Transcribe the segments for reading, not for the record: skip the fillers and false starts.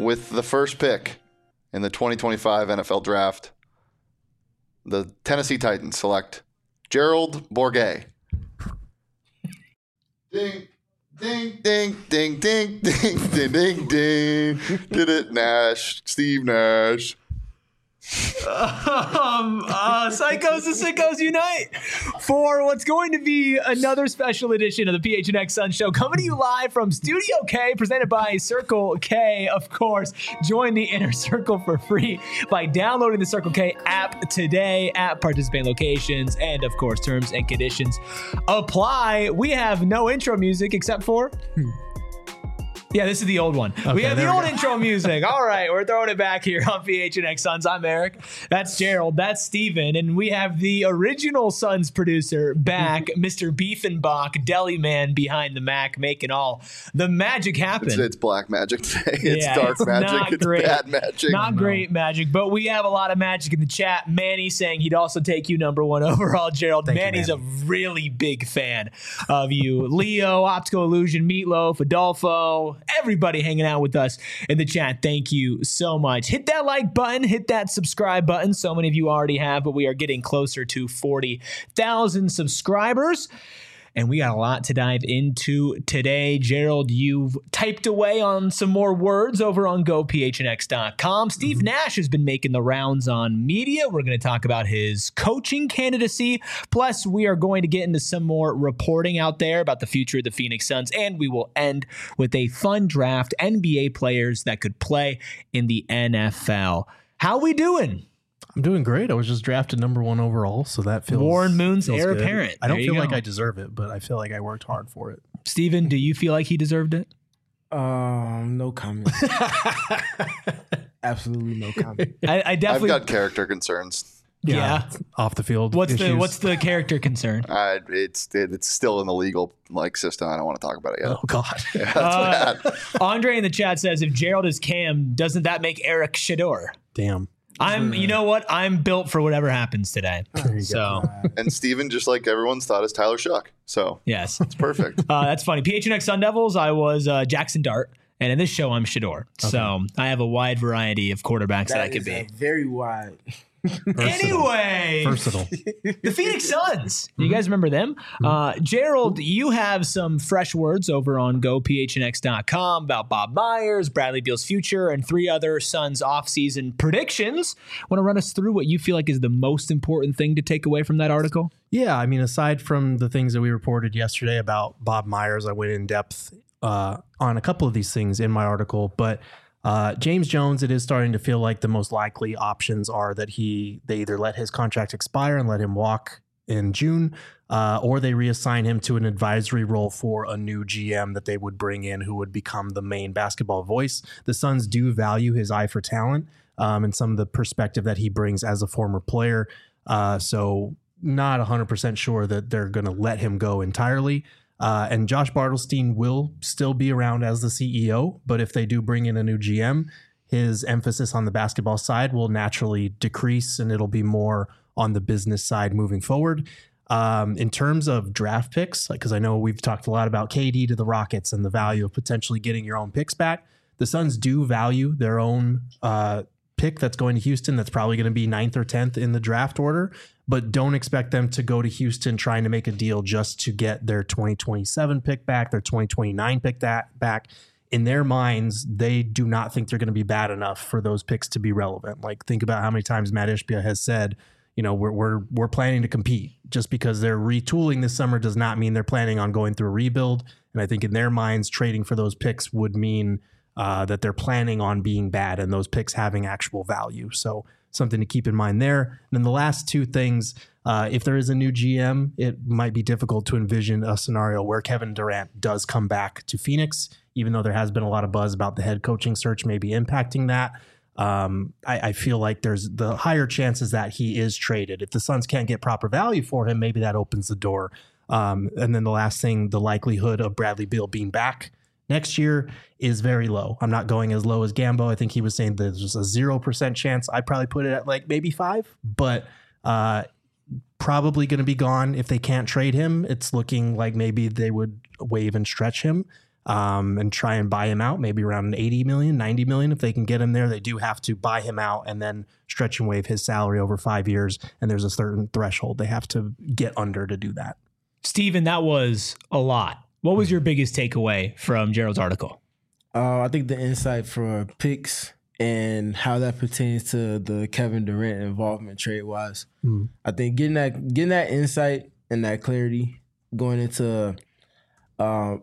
with the first pick in the 2025 NFL Draft, the Tennessee Titans select Gerald Bourguet. Ding, ding, ding, ding, ding, ding, ding, ding, ding. Did it, Nash? Steve Nash. Psychos and Sickos unite for what's going to be another special edition of the PHNX Sun Show, coming to you live from Studio K, presented by Circle K. Of course, join the inner circle for free by downloading the Circle K app today at participating locations, and of course, terms and conditions apply. We have no intro music except for yeah, this is the old one. Okay, we have the old intro music. All right, we're throwing it back here on PHNX Suns. I'm Eric. That's Gerald. That's Steven. And we have the original Suns producer back, Mr. Beefenbach, deli man behind the Mac, making all the magic happen. It's black magic today. It's dark magic. It's bad magic. Not great magic, but we have a lot of magic in the chat. Manny saying he'd also take you number one overall, Gerald. Manny's a really big fan of you. Leo, Optical Illusion, Meatloaf, Adolfo, everybody hanging out with us in the chat. Thank you so much. Hit that like button, hit that subscribe button. So many of you already have, but we are getting closer to 40,000 subscribers. And we got a lot to dive into today. Gerald, you've typed away on some more words over on GoPHNX.com. Steve Nash has been making the rounds on media. We're going to talk about his coaching candidacy. Plus, we are going to get into some more reporting out there about the future of the Phoenix Suns. And we will end with a fun draft, NBA players that could play in the NFL. How we doing? I'm doing great. I was just drafted number one overall, so that feels Warren Moon's feels heir good. apparent. I don't feel like I deserve it, but I feel like I worked hard for it. Steven, do you feel like he deserved it? No comment. Absolutely no comment. I definitely. I've got character concerns. Yeah. Off the field. What's issues. the character concern? It's still in the legal system. I don't want to talk about it yet. Oh God. Yeah, that's bad. Andre in the chat says, if Gerald is Cam, doesn't that make Eric Shador? Damn. You know what? I'm built for whatever happens today. So, And Steven, just like everyone's thought, is Tyler Shuck. So yes, it's perfect. That's funny. PHNX Sun Devils, I was Jackson Dart. And in this show, I'm Shador. Okay. So I have a wide variety of quarterbacks that I could be. Very wide. Anyway, versatile. The Phoenix Suns. You guys remember them? Gerald, you have some fresh words over on GoPHNX.com about Bob Myers, Bradley Beal's future, and 3 other Suns offseason predictions. Want to run us through what you feel like is the most important thing to take away from that article? Yeah, I mean, aside from the things that we reported yesterday about Bob Myers, I went in depth on a couple of these things in my article, but James Jones, it is starting to feel like the most likely options are that they either let his contract expire and let him walk in June, or they reassign him to an advisory role for a new GM that they would bring in who would become the main basketball voice. The Suns do value his eye for talent and some of the perspective that he brings as a former player. So not 100% sure that they're going to let him go entirely. And Josh Bartelstein will still be around as the CEO, but if they do bring in a new GM, his emphasis on the basketball side will naturally decrease and it'll be more on the business side moving forward. In terms of draft picks, because I know we've talked a lot about KD to the Rockets and the value of potentially getting your own picks back. The Suns do value their own pick that's going to Houston. That's probably going to be 9th or 10th in the draft order, but don't expect them to go to Houston trying to make a deal just to get their 2027 pick back, their 2029 pick back. In their minds, they do not think they're going to be bad enough for those picks to be relevant. Like, think about how many times Matt Ishbia has said, you know, we're planning to compete. Just because they're retooling this summer does not mean they're planning on going through a rebuild. And I think in their minds, trading for those picks would mean that they're planning on being bad and those picks having actual value. So something to keep in mind there. And then the last 2 things, if there is a new GM, it might be difficult to envision a scenario where Kevin Durant does come back to Phoenix, even though there has been a lot of buzz about the head coaching search maybe impacting that. I feel like there's the higher chances that he is traded. If the Suns can't get proper value for him, maybe that opens the door. And then the last thing, the likelihood of Bradley Beal being back next year is very low. I'm not going as low as Gambo. I think he was saying there's just a 0% chance. I'd probably put it at like maybe 5, but probably going to be gone if they can't trade him. It's looking like maybe they would waive and stretch him. and try and buy him out, maybe around 80 million, 90 million. If they can get him there, they do have to buy him out and then stretch and waive his salary over 5 years. And there's a certain threshold they have to get under to do that. Steven, that was a lot. What was your biggest takeaway from Gerald's article? I think the insight for picks and how that pertains to the Kevin Durant involvement trade-wise. I think getting that insight and that clarity going into a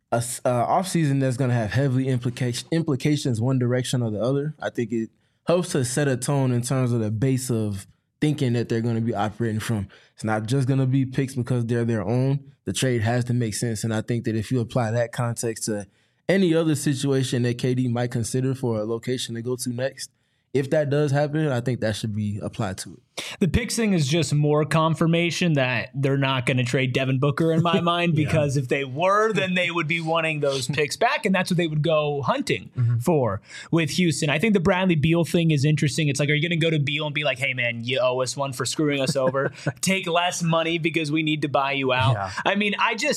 offseason that's going to have heavily implications one direction or the other. I think it helps to set a tone in terms of the base of thinking that they're going to be operating from. It's not just going to be picks because they're their own. The trade has to make sense. And I think that if you apply that context to any other situation that KD might consider for a location to go to next, if that does happen, I think that should be applied to it. The picks thing is just more confirmation that they're not going to trade Devin Booker in my mind, because if they were, then they would be wanting those picks back, and that's what they would go hunting for with Houston. I think the Bradley Beal thing is interesting. It's like, are you going to go to Beal and be like, hey, man, you owe us one for screwing us over? Take less money because we need to buy you out. Yeah. I mean,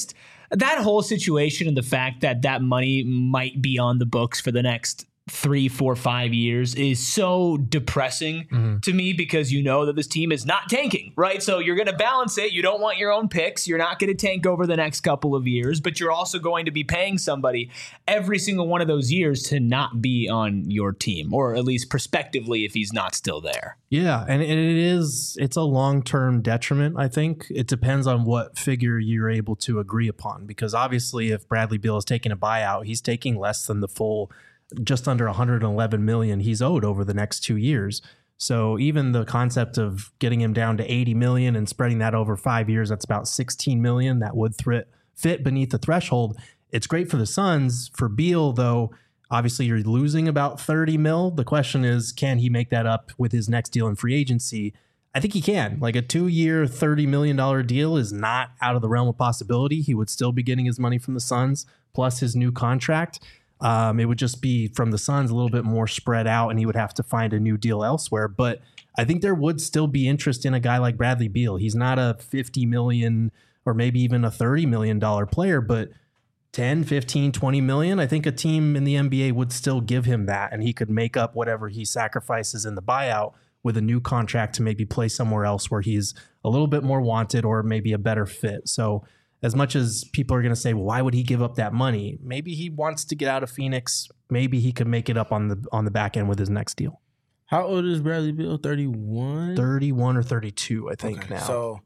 that whole situation and the fact that that money might be on the books for the next 3, 4, 5 years is so depressing to me, because you know that this team is not tanking, right? So you're going to balance it. You don't want your own picks. You're not going to tank over the next couple of years, but you're also going to be paying somebody every single one of those years to not be on your team, or at least prospectively if he's not still there. Yeah, and it's a long-term detriment, I think. It depends on what figure you're able to agree upon, because obviously if Bradley Beal is taking a buyout, he's taking less than the full just under 111 million he's owed over the next 2 years. So even the concept of getting him down to 80 million and spreading that over 5 years, that's about 16 million that would fit beneath the threshold. It's great for the Suns. For Beal, though, obviously you're losing about 30 mil. The question is, can he make that up with his next deal in free agency? I think he can. Like a 2-year, $30 million deal is not out of the realm of possibility. He would still be getting his money from the Suns plus his new contract. It would just be from the Suns a little bit more spread out, and he would have to find a new deal elsewhere. But I think there would still be interest in a guy like Bradley Beal. He's not a 50 million or maybe even a $30 million player, but 10, 15, 20 million. I think a team in the NBA would still give him that, and he could make up whatever he sacrifices in the buyout with a new contract to maybe play somewhere else where he's a little bit more wanted or maybe a better fit. So as much as people are going to say, well, why would he give up that money? Maybe he wants to get out of Phoenix. Maybe he could make it up on the back end with his next deal. How old is Bradley Beal? 31? 31 or 32, I think now. So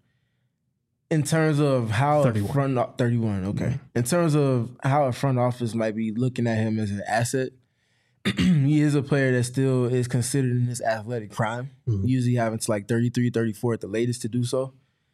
in terms of how 31, okay. Mm-hmm. In terms of how a front office might be looking at him as an asset, he is a player that still is considered in his athletic prime, usually having to like 33, 34 at the latest to do so.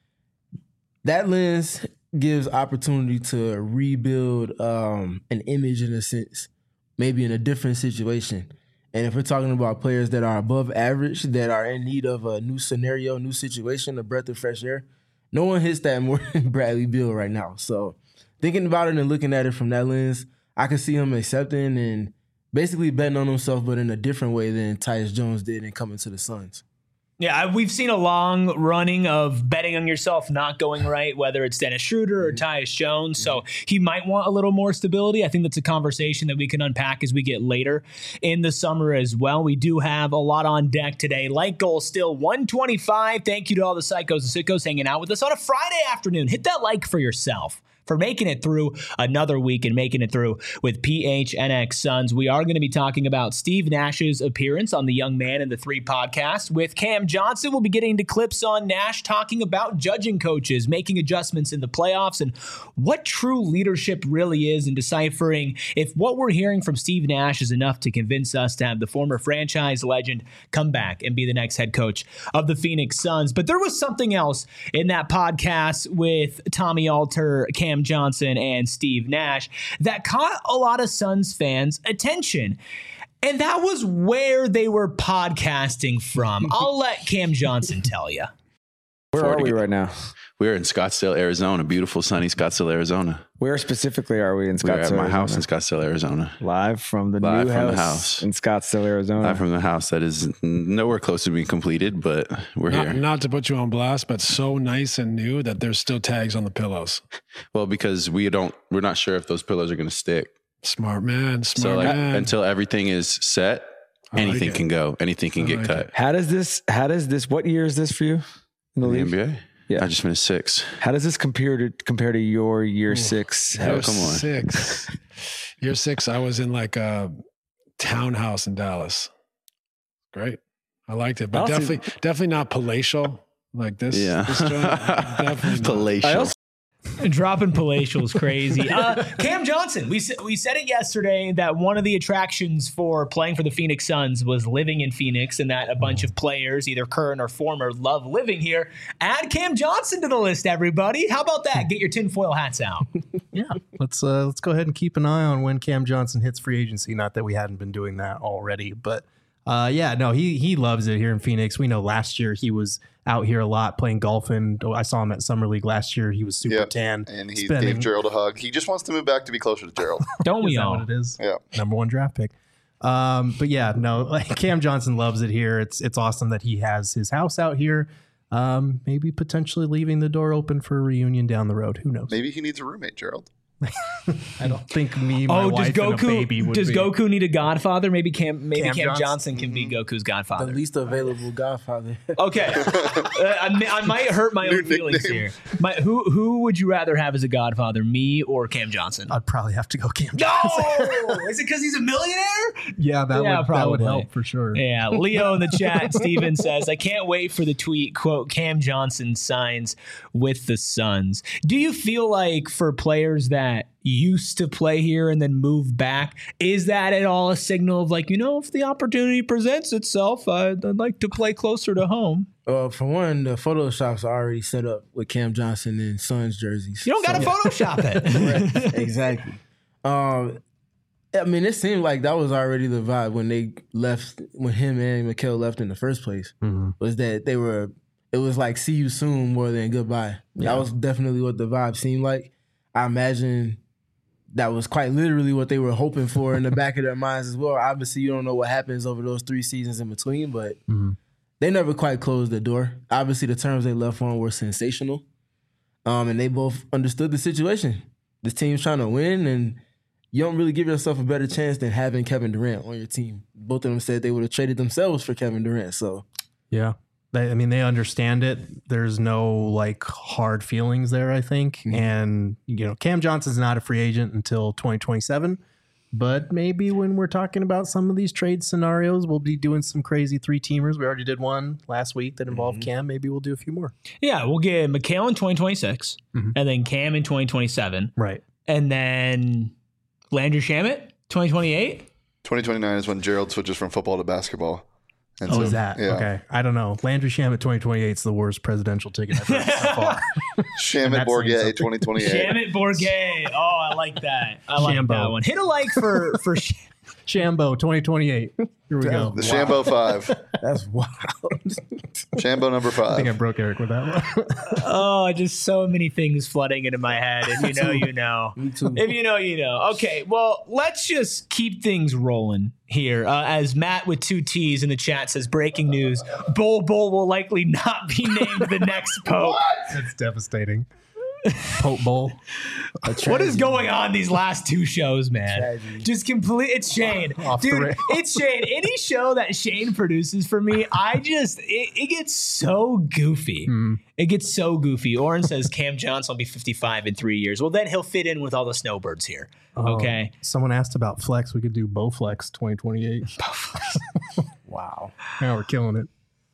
That lens gives opportunity to rebuild an image in a sense, maybe in a different situation. And if we're talking about players that are above average, that are in need of a new scenario, new situation, a breath of fresh air, no one hits that more than Bradley Beal right now. So thinking about it and looking at it from that lens, I can see him accepting and basically betting on himself, but in a different way than Tyus Jones did in coming to the Suns. Yeah, we've seen a long running of betting on yourself not going right, whether it's Dennis Schroeder or Tyus Jones. So he might want a little more stability. I think that's a conversation that we can unpack as we get later in the summer as well. We do have a lot on deck today. Like goal still 125. Thank you to all the psychos and sickos hanging out with us on a Friday afternoon. Hit that like for yourself for making it through another week and making it through with PHNX Suns. We are going to be talking about Steve Nash's appearance on the Young Man and the Three podcast with Cam Johnson. We'll be getting into clips on Nash talking about judging coaches, making adjustments in the playoffs, and what true leadership really is, and deciphering if what we're hearing from Steve Nash is enough to convince us to have the former franchise legend come back and be the next head coach of the Phoenix Suns. But there was something else in that podcast with Tommy Alter, Cam Johnson, and Steve Nash that caught a lot of Suns fans' attention. And that was where they were podcasting from. I'll let Cam Johnson tell you. Where are we right now? We're in Scottsdale, Arizona. Beautiful, sunny Scottsdale, Arizona. Where specifically are we in Scottsdale, We're at my Arizona? house in Scottsdale, Arizona. Live from the Live new from the house house. in Scottsdale, Arizona. Live from the house that is nowhere close to being completed, but we're here. Not to put you on blast, but so nice and new that there's still tags on the pillows. Well, because we're not sure if those pillows are going to stick. Smart man. So until everything is set, anything can go. Anything can get cut. How does this, what year is this for you in the In the league? NBA? Yeah. I just finished 6. How does this compare to your year 6? Oh, come on. 6. Year 6, I was in like a townhouse in Dallas. Great. I liked it, but definitely not palatial like this. Yeah. This joint. Definitely not. Palatial. Dropping palatial is crazy. Cam Johnson, we said it yesterday that one of the attractions for playing for the Phoenix Suns was living in Phoenix, and that a bunch of players, either current or former, love living here. Add Cam Johnson to the list, everybody. How about that? Get your tinfoil hats out. Yeah, let's go ahead and keep an eye on when Cam Johnson hits free agency. Not that we hadn't been doing that already, but he loves it here in Phoenix. We know last year he was out here a lot playing golf, and I saw him at Summer League last year. He was super tan, and he gave Gerald a hug. He just wants to move back to be closer to Gerald. Don't we all? What it is? Yeah, number 1 draft pick. But yeah, no, like Cam Johnson loves it here. It's awesome that he has his house out here. Maybe potentially leaving the door open for a reunion down the road. Who knows? Maybe he needs a roommate, Gerald. I don't think my wife and a baby would does be. Goku need a godfather? Maybe Cam Johnson? Johnson can be Goku's The godfather. least available godfather. Okay, I might hurt my own feelings here. Who would you rather have as a godfather, me or Cam Johnson? I'd probably have to go Cam No, Johnson. is it because he's a millionaire? Yeah, that would probably help for sure. Yeah, Leo in the chat, Steven says, I can't wait for the tweet, quote, Cam Johnson signs with the Suns. Do you feel like for players that used to play here and then move back, is that at all a signal of like, if the opportunity presents itself, I'd like to play closer to home? For one, the Photoshops are already set up with Cam Johnson and Suns jerseys. You don't got to Photoshop it. Right, exactly. I mean, it seemed like that was already the vibe when they left, when him and Mikal left in the first place, was that it was like see you soon more than goodbye. Yeah. That was definitely what the vibe seemed like. I imagine that was quite literally what they were hoping for in the back of their minds as well. Obviously, you don't know what happens over those 3 seasons in between, but they never quite closed the door. Obviously, the terms they left on were sensational, and they both understood the situation. This team's trying to win, and you don't really give yourself a better chance than having Kevin Durant on your team. Both of them said they would have traded themselves for Kevin Durant. So, yeah. They understand it. There's no like hard feelings there, I think. And, Cam Johnson's not a free agent until 2027. But maybe when we're talking about some of these trade scenarios, we'll be doing some crazy 3-teamers. We already did one last week that involved Cam. Maybe we'll do a few more. Yeah, we'll get Mikal in 2026 and then Cam in 2027. Right. And then Landry Shamet, 2028. 2029 is when Gerald switches from football to basketball. And is that? Yeah. Okay. I don't know. Landry Shamet 2028 is the worst presidential ticket I've heard so far. Shamet Bourguet 2028. Shamet Bourguet. Oh, I like that. I like that one. Hit a like for Shambo 2028. Here we go. The Shambo 5. That's wild. Shambo number 5. I think I broke Eric with that one. Oh, just so many things flooding into my head. If you know, you know. Me too. If you know, you know. Okay, well, let's just keep things rolling here. As Matt with 2 T's in the chat says, breaking news, Bol will likely not be named the next Pope. That's devastating. Pope Bowl. What is going on these last 2 shows, man? Tragedy. Just complete. It's Shane, dude. It's Shane. Any show that Shane produces for me, it gets so goofy. It gets so goofy. Oren says Cam Johnson will be 55 in 3 years. Well, then he'll fit in with all the snowbirds here. Okay. Someone asked about flex. We could do Bowflex 2028. Wow. Now we're killing it.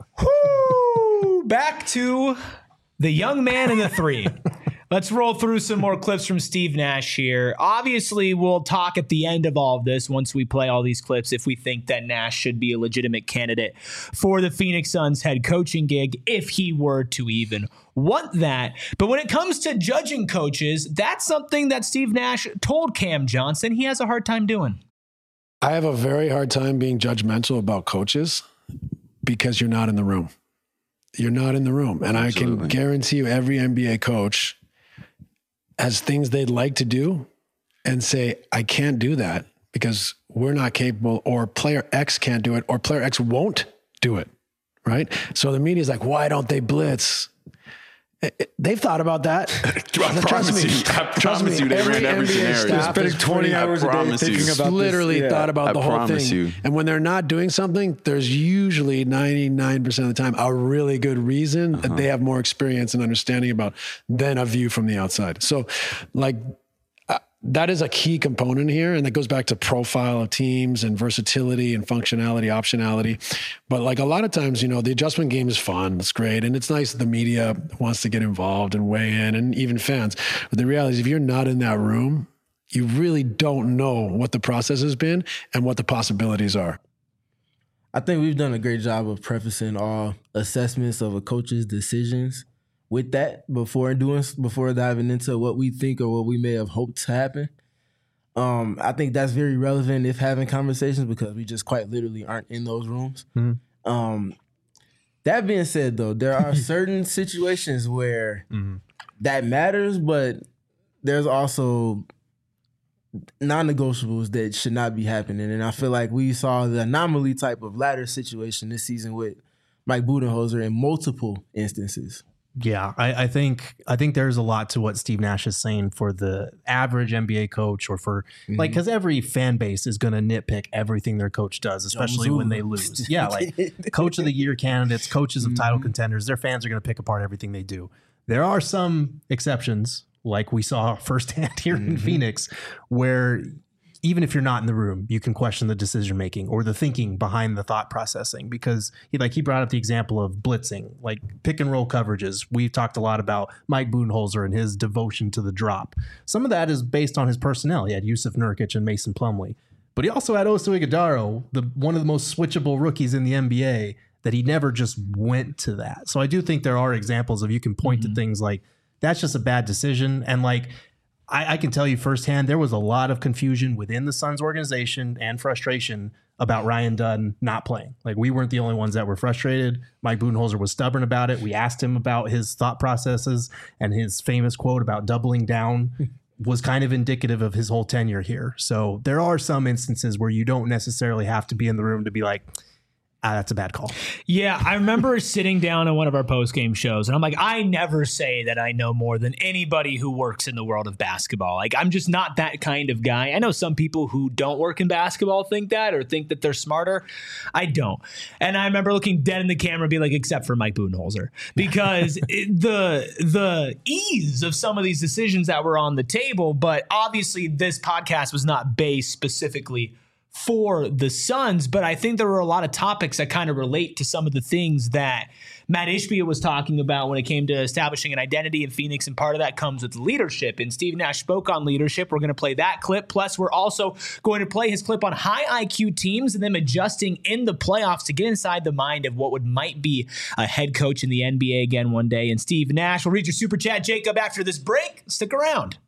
Woo! Back to the young man and the 3. Let's roll through some more clips from Steve Nash here. Obviously, we'll talk at the end of all of this once we play all these clips if we think that Nash should be a legitimate candidate for the Phoenix Suns head coaching gig if he were to even want that. But when it comes to judging coaches, that's something that Steve Nash told Cam Johnson he has a hard time doing. I have a very hard time being judgmental about coaches because you're not in the room. you're not in the room. And Absolutely. I can guarantee you every NBA coach has things they'd like to do and say, I can't do that because we're not capable, or player X can't do it, or player X won't do it. Right. So the media is like, why don't they blitz? They've thought about that. I promise you, they ran every scenario. They're spending 20 hours a day thinking about literally this. thought about the whole thing. You. And when they're not doing something, there's usually 99% of the time a really good reason that they have more experience and understanding about than a view from the outside. So like, that is a key component here. And that goes back to profile of teams and versatility and functionality, optionality. But like a lot of times, the adjustment game is fun. It's great. And it's nice that the media wants to get involved and weigh in, and even fans. But the reality is, if you're not in that room, you really don't know what the process has been and what the possibilities are. I think we've done a great job of prefacing all assessments of a coach's decisions with that before diving into what we think or what we may have hoped to happen. I think that's very relevant if having conversations, because we just quite literally aren't in those rooms. Mm-hmm. That being said, though, there are certain situations where that matters, but there's also non-negotiables that should not be happening. And I feel like we saw the anomaly type of ladder situation this season with Mike Budenholzer in multiple instances. Yeah, I think there's a lot to what Steve Nash is saying for the average NBA coach, or for like, because every fan base is going to nitpick everything their coach does, especially when they lose. Yeah, like coach of the year candidates, coaches of title contenders, their fans are going to pick apart everything they do. There are some exceptions, like we saw firsthand here in Phoenix, where even if you're not in the room, you can question the decision making or the thinking behind the thought processing, because he brought up the example of blitzing, like pick and roll coverages. We've talked a lot about Mike Budenholzer and his devotion to the drop. Some of that is based on his personnel. He had Yusuf Nurkic and Mason Plumlee, but he also had Oso Ighodaro, one of the most switchable rookies in the NBA, that he never just went to that. So I do think there are examples of, you can point to things like that's just a bad decision. And like, I can tell you firsthand, there was a lot of confusion within the Suns organization and frustration about Ryan Dunn not playing. Like, we weren't the only ones that were frustrated. Mike Budenholzer was stubborn about it. We asked him about his thought processes, and his famous quote about doubling down was kind of indicative of his whole tenure here. So there are some instances where you don't necessarily have to be in the room to be like, that's a bad call. Yeah, I remember sitting down on one of our post-game shows, and I'm like, I never say that I know more than anybody who works in the world of basketball. Like, I'm just not that kind of guy. I know some people who don't work in basketball think that, or think that they're smarter. I don't. And I remember looking dead in the camera and being like, except for Mike Budenholzer, because the ease of some of these decisions that were on the table. But obviously this podcast was not based specifically for the Suns, but I think there were a lot of topics that kind of relate to some of the things that Matt Ishbia was talking about when it came to establishing an identity in Phoenix, and part of that comes with leadership. And Steve Nash spoke on leadership. We're going to play that clip. Plus, we're also going to play his clip on high IQ teams and them adjusting in the playoffs to get inside the mind of what might be a head coach in the NBA again one day. And Steve Nash will read your super chat, Jacob, after this break. Stick around.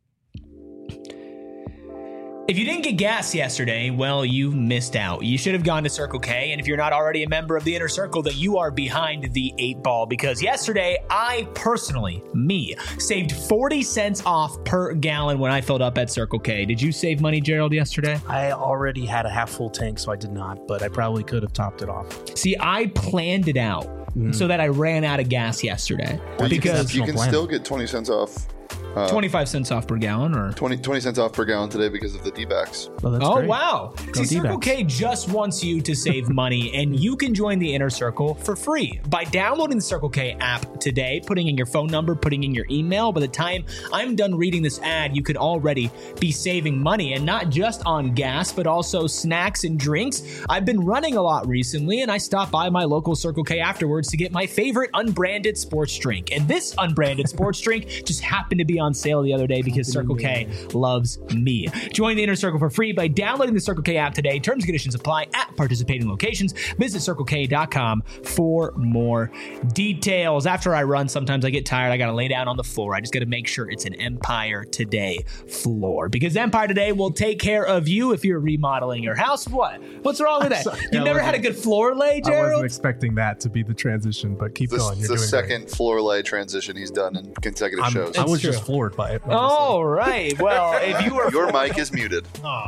If you didn't get gas yesterday, well, you missed out. You should have gone to Circle K, and if you're not already a member of the Inner Circle, then you are behind the 8 ball, because yesterday, I personally, saved 40 cents off per gallon when I filled up at Circle K. Did you save money, Gerald, yesterday? I already had a half full tank, so I did not, but I probably could have topped it off. See, I planned it out so that I ran out of gas yesterday. Well, because you can still get 20 cents off. 25 cents off per gallon, or 20 cents off per gallon today because of the D-backs. Oh, great. Wow. See, Circle K just wants you to save money, and you can join the Inner Circle for free by downloading the Circle K app today, putting in your phone number, putting in your email. By the time I'm done reading this ad, you could already be saving money, and not just on gas, but also snacks and drinks. I've been running a lot recently, and I stopped by my local Circle K afterwards to get my favorite unbranded sports drink. And this unbranded sports drink just happened to be on sale the other day because Circle K loves me. Join the Inner Circle for free by downloading the Circle K app today. Terms and conditions apply at participating locations. Visit CircleK.com for more details. After I run, sometimes I get tired. I got to lay down on the floor. I just got to make sure it's an Empire Today floor because Empire Today will take care of you if you're remodeling your house. What? What's wrong with that? You've never had a good floor lay, Gerald? I wasn't expecting that to be the transition, but keep going. It's the second floor lay transition he's done in consecutive shows. I was just floored by it. All right. Well, if you were... Your mic is muted. Oh.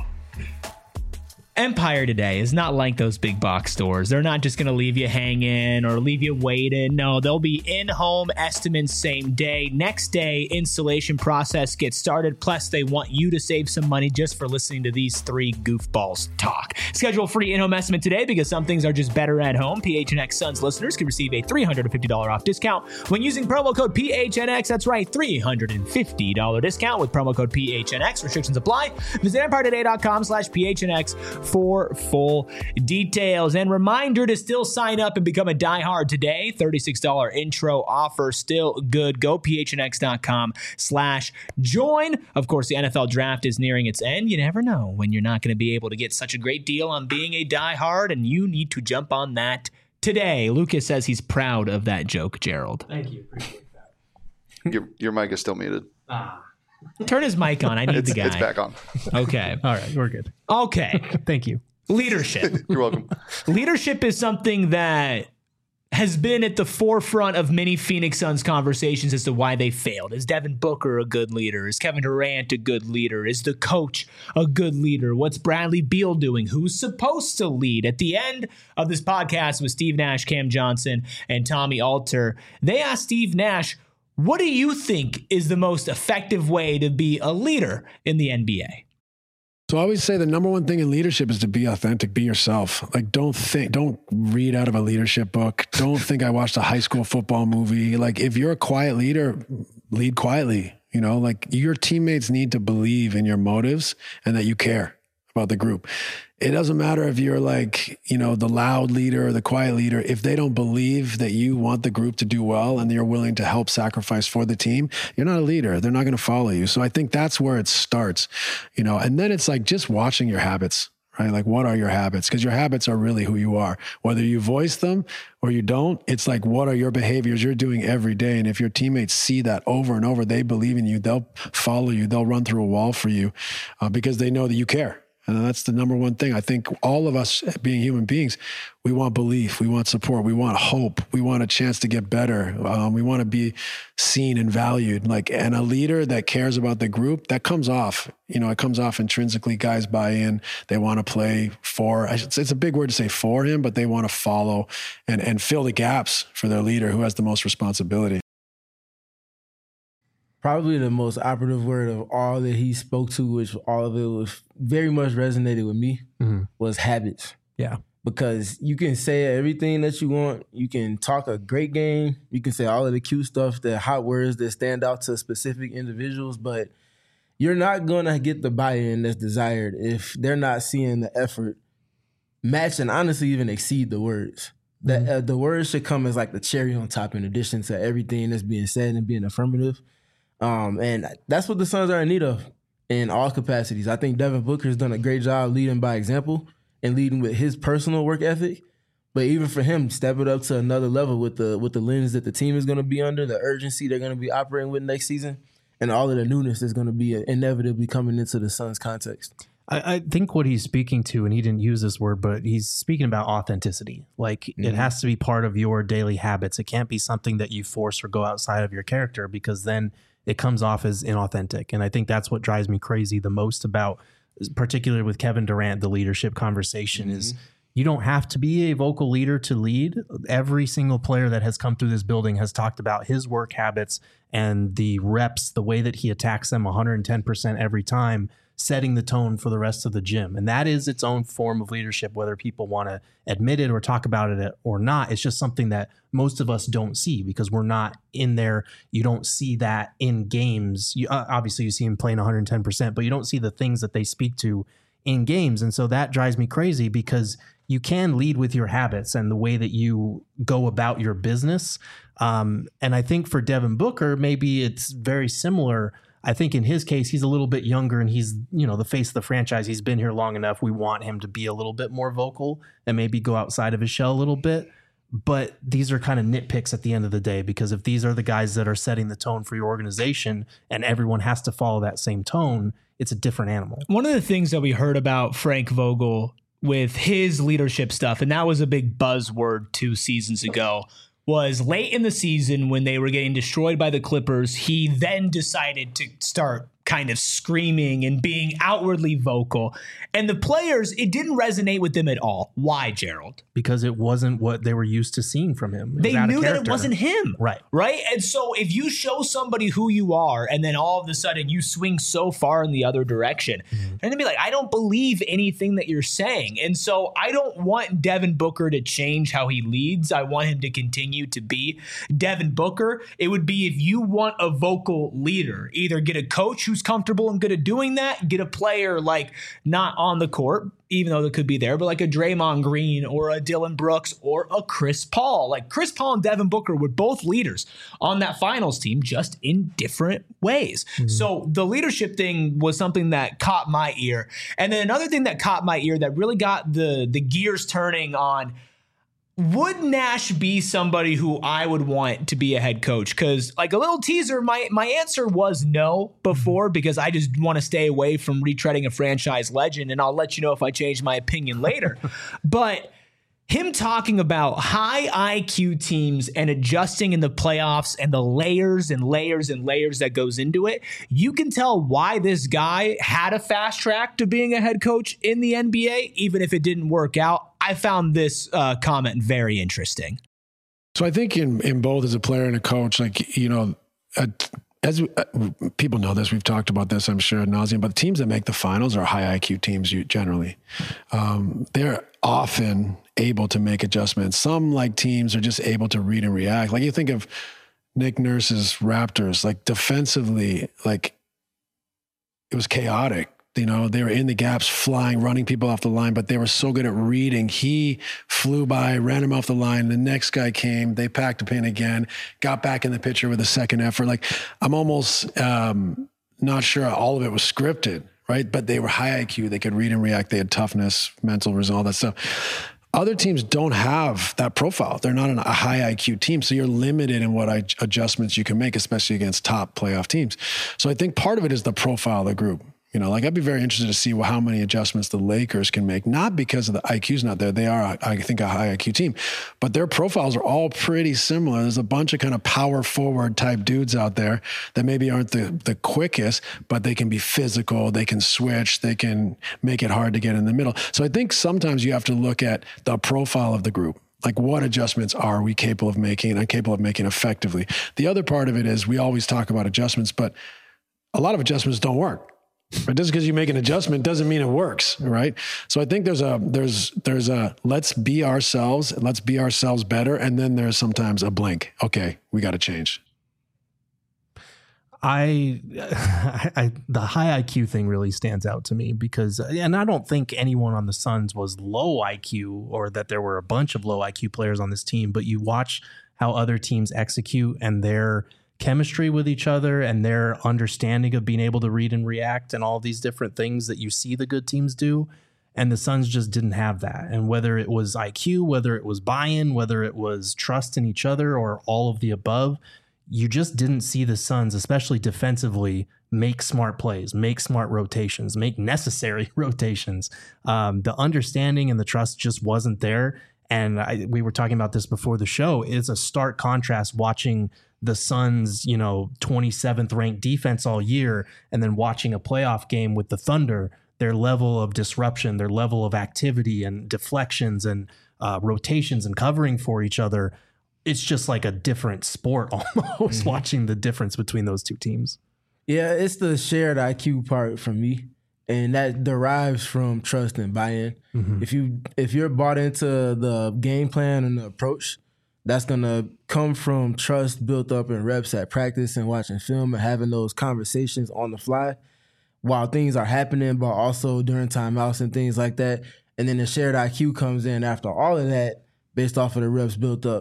Empire Today is not like those big box stores. They're not just going to leave you hanging or leave you waiting. No, they'll be in-home estimates same day. Next day, installation process gets started. Plus, they want you to save some money just for listening to these three goofballs talk. Schedule a free in-home estimate today because some things are just better at home. PHNX Suns listeners can receive a $350 off discount when using promo code PHNX. That's right, $350 discount with promo code PHNX. Restrictions apply. Visit EmpireToday.com/PHNX for full details. And reminder to still sign up and become a diehard today. $36 intro offer still good. Go phnx.com/join. Of course, the NFL draft is nearing its end. You never know when you're not going to be able to get such a great deal on being a diehard, and you need to jump on that today. Lucas says he's proud of that joke, Gerald. Thank you. Appreciate that. Your mic is still muted. Turn his mic on. I need the guy. It's back on. Okay. All right, we're good. Okay. Thank you. Leadership. You're welcome. Leadership is something that has been at the forefront of many Phoenix Suns conversations as to why they failed. Is Devin Booker a good leader? Is Kevin Durant a good leader? Is the coach a good leader? What's Bradley Beal doing? Who's supposed to lead? At the end of this podcast with Steve Nash, Cam Johnson, and Tommy Alter, they asked Steve Nash, what do you think is the most effective way to be a leader in the NBA? So I always say the number one thing in leadership is to be authentic, be yourself. Like, don't read out of a leadership book. Don't think I watched a high school football movie. Like, if you're a quiet leader, lead quietly. You know, like, your teammates need to believe in your motives and that you care about the group. It doesn't matter if you're like, you know, the loud leader or the quiet leader. If they don't believe that you want the group to do well and you're willing to help sacrifice for the team, you're not a leader. They're not going to follow you. So I think that's where it starts, you know, and then it's like just watching your habits, right? Like, what are your habits? Because your habits are really who you are. Whether you voice them or you don't, it's like, what are your behaviors you're doing every day? And if your teammates see that over and over, they believe in you, they'll follow you, they'll run through a wall for you because they know that you care. And that's the number one thing. I think all of us being human beings, we want belief, we want support, we want hope, we want a chance to get better. We want to be seen and valued. Like, and a leader that cares about the group, that comes off, you know, it comes off intrinsically. Guys buy in, they want to play for, it's a big word to say for him, but they want to follow and fill the gaps for their leader who has the most responsibility. Probably the most operative word of all that he spoke to, which all of it was very much resonated with me, was habits. Yeah. Because you can say everything that you want. You can talk a great game. You can say all of the cute stuff, the hot words that stand out to specific individuals, but you're not going to get the buy-in that's desired if they're not seeing the effort match and honestly even exceed the words. That the words should come as like the cherry on top in addition to everything that's being said and being affirmative. And that's what the Suns are in need of in all capacities. I think Devin Booker has done a great job leading by example and leading with his personal work ethic. But even for him, step it up to another level with the lens that the team is going to be under, the urgency they're going to be operating with next season, and all of the newness that's going to be inevitably coming into the Suns context. I think what he's speaking to, and he didn't use this word, but he's speaking about authenticity. Like, it has to be part of your daily habits. It can't be something that you force or go outside of your character, because then it comes off as inauthentic. And I think that's what drives me crazy the most about, particularly with Kevin Durant, the leadership conversation is you don't have to be a vocal leader to lead. Every single player that has come through this building has talked about his work habits and the reps, the way that he attacks them 110% every time, setting the tone for the rest of the gym. And that is its own form of leadership, whether people want to admit it or talk about it or not. It's just something that most of us don't see because we're not in there. You don't see that in games. Obviously, you see him playing 110%, but you don't see the things that they speak to in games. And so that drives me crazy because you can lead with your habits and the way that you go about your business. And I think for Devin Booker, maybe it's very similar. I think in his case, he's a little bit younger and he's, the face of the franchise. He's been here long enough. We want him to be a little bit more vocal and maybe go outside of his shell a little bit. But these are kind of nitpicks at the end of the day, because if these are the guys that are setting the tone for your organization and everyone has to follow that same tone, it's a different animal. One of the things that we heard about Frank Vogel with his leadership stuff, and that was a big buzzword 2 seasons ago, was late in the season when they were getting destroyed by the Clippers, he then decided to start kind of screaming and being outwardly vocal. And the players, it didn't resonate with them at all. Why, Gerald? Because it wasn't what they were used to seeing from him. They knew that it wasn't him. Right. Right? And so if you show somebody who you are and then all of a sudden you swing so far in the other direction, they're going to be like, I don't believe anything that you're saying. And so I don't want Devin Booker to change how he leads. I want him to continue to be Devin Booker. It would be, if you want a vocal leader, either get a coach who's comfortable and good at doing that, get a player like not on the court, even though they could be there, but like a Draymond Green or a Dylan Brooks or a Chris Paul. Like Chris Paul and Devin Booker were both leaders on that finals team, just in different ways. So the leadership thing was something that caught my ear. And then another thing that caught my ear that really got the gears turning on, would Nash be somebody who I would want to be a head coach? Because like a little teaser, my answer was no before, because I just want to stay away from retreading a franchise legend, and I'll let you know if I change my opinion later. But him talking about high IQ teams and adjusting in the playoffs and the layers and layers and layers that goes into it, you can tell why this guy had a fast track to being a head coach in the NBA, even if it didn't work out. I found this comment very interesting. So I think in both as a player and a coach, like, as people know this, we've talked about this, I'm sure, ad nauseum, but the teams that make the finals are high IQ teams generally. They're often able to make adjustments. Some like teams are just able to read and react. Like you think of Nick Nurse's Raptors, like defensively, like it was chaotic. They were in the gaps, flying, running people off the line, but they were so good at reading. He flew by, ran him off the line. The next guy came, they packed a pin again, got back in the picture with a second effort. Like I'm almost not sure all of it was scripted, right? But they were high IQ. They could read and react. They had toughness, mental resolve, all that stuff. Other teams don't have that profile. They're not a high IQ team. So you're limited in what adjustments you can make, especially against top playoff teams. So I think part of it is the profile of the group. I'd be very interested to see how many adjustments the Lakers can make, not because of the IQ's not there. They are, I think, a high IQ team, but their profiles are all pretty similar. There's a bunch of kind of power forward type dudes out there that maybe aren't the quickest, but they can be physical. They can switch. They can make it hard to get in the middle. So I think sometimes you have to look at the profile of the group. Like what adjustments are we capable of making and capable of making effectively? The other part of it is we always talk about adjustments, but a lot of adjustments don't work. But just because you make an adjustment doesn't mean it works, right? So I think there's a let's be ourselves better, and then there's sometimes a blink. Okay, we got to change. The high IQ thing really stands out to me because, and I don't think anyone on the Suns was low IQ or that there were a bunch of low IQ players on this team, but you watch how other teams execute and their chemistry with each other and their understanding of being able to read and react and all these different things that you see the good teams do. And the Suns just didn't have that. And whether it was IQ, whether it was buy-in, whether it was trust in each other or all of the above, you just didn't see the Suns, especially defensively, make smart plays, make smart rotations, make necessary rotations. The understanding and the trust just wasn't there. And we were talking about this before the show. It's a stark contrast watching the Suns, 27th ranked defense all year, and then watching a playoff game with the Thunder, their level of disruption, their level of activity and deflections and rotations and covering for each other. It's just like a different sport almost watching the difference between those two teams. Yeah, it's the shared IQ part for me. And that derives from trust and buy-in. Mm-hmm. If you're bought into the game plan and the approach, that's going to come from trust built up in reps at practice and watching film and having those conversations on the fly while things are happening, but also during timeouts and things like that. And then the shared IQ comes in after all of that based off of the reps built up.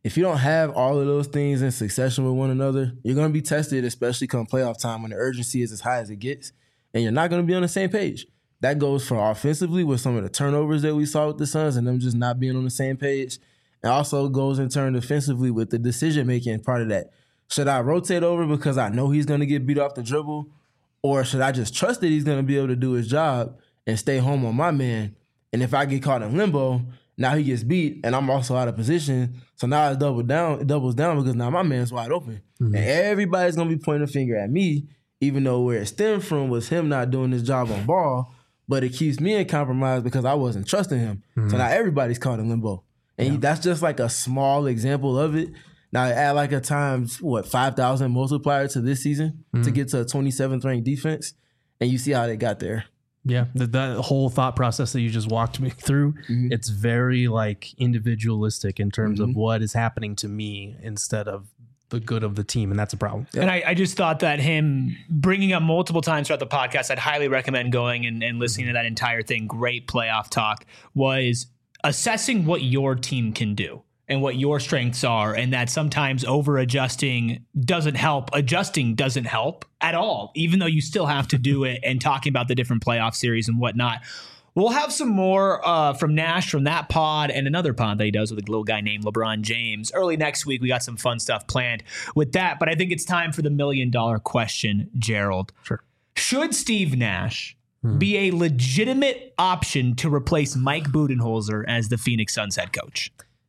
if you don't have all of those things in succession with one another, you're going to be tested, especially come playoff time when the urgency is as high as it gets, and you're not going to be on the same page. That goes for offensively with some of the turnovers that we saw with the Suns and them just not being on the same page. It also goes in turn defensively with the decision-making part of that. Should I rotate over because I know he's going to get beat off the dribble, or should I just trust that he's going to be able to do his job and stay home on my man? And if I get caught in limbo, now he gets beat and I'm also out of position. So now it doubles down because now my man's wide open. Mm-hmm. And everybody's going to be pointing a finger at me, even though where it stemmed from was him not doing his job on ball, but it keeps me in compromise because I wasn't trusting him. Mm-hmm. So now everybody's caught in limbo. And that's just like a small example of it. Now add like a times, 5,000 multiplier to this season to get to a 27th ranked defense, and you see how they got there. Yeah, that whole thought process that you just walked me through, it's very like individualistic in terms of what is happening to me instead of the good of the team, and that's a problem. And I just thought that him bringing up multiple times throughout the podcast, I'd highly recommend going and listening to that entire thing. Great playoff talk, was assessing what your team can do and what your strengths are, and that sometimes over-adjusting doesn't help. Adjusting doesn't help at all, even though you still have to do it, and talking about the different playoff series and whatnot. We'll have some more from Nash from that pod and another pod that he does with a little guy named LeBron James. Early next week, we got some fun stuff planned with that, but I think it's time for the $1 million question, Gerald. Sure. Should Steve Nash be a legitimate option to replace Mike Budenholzer as the Phoenix Suns head coach?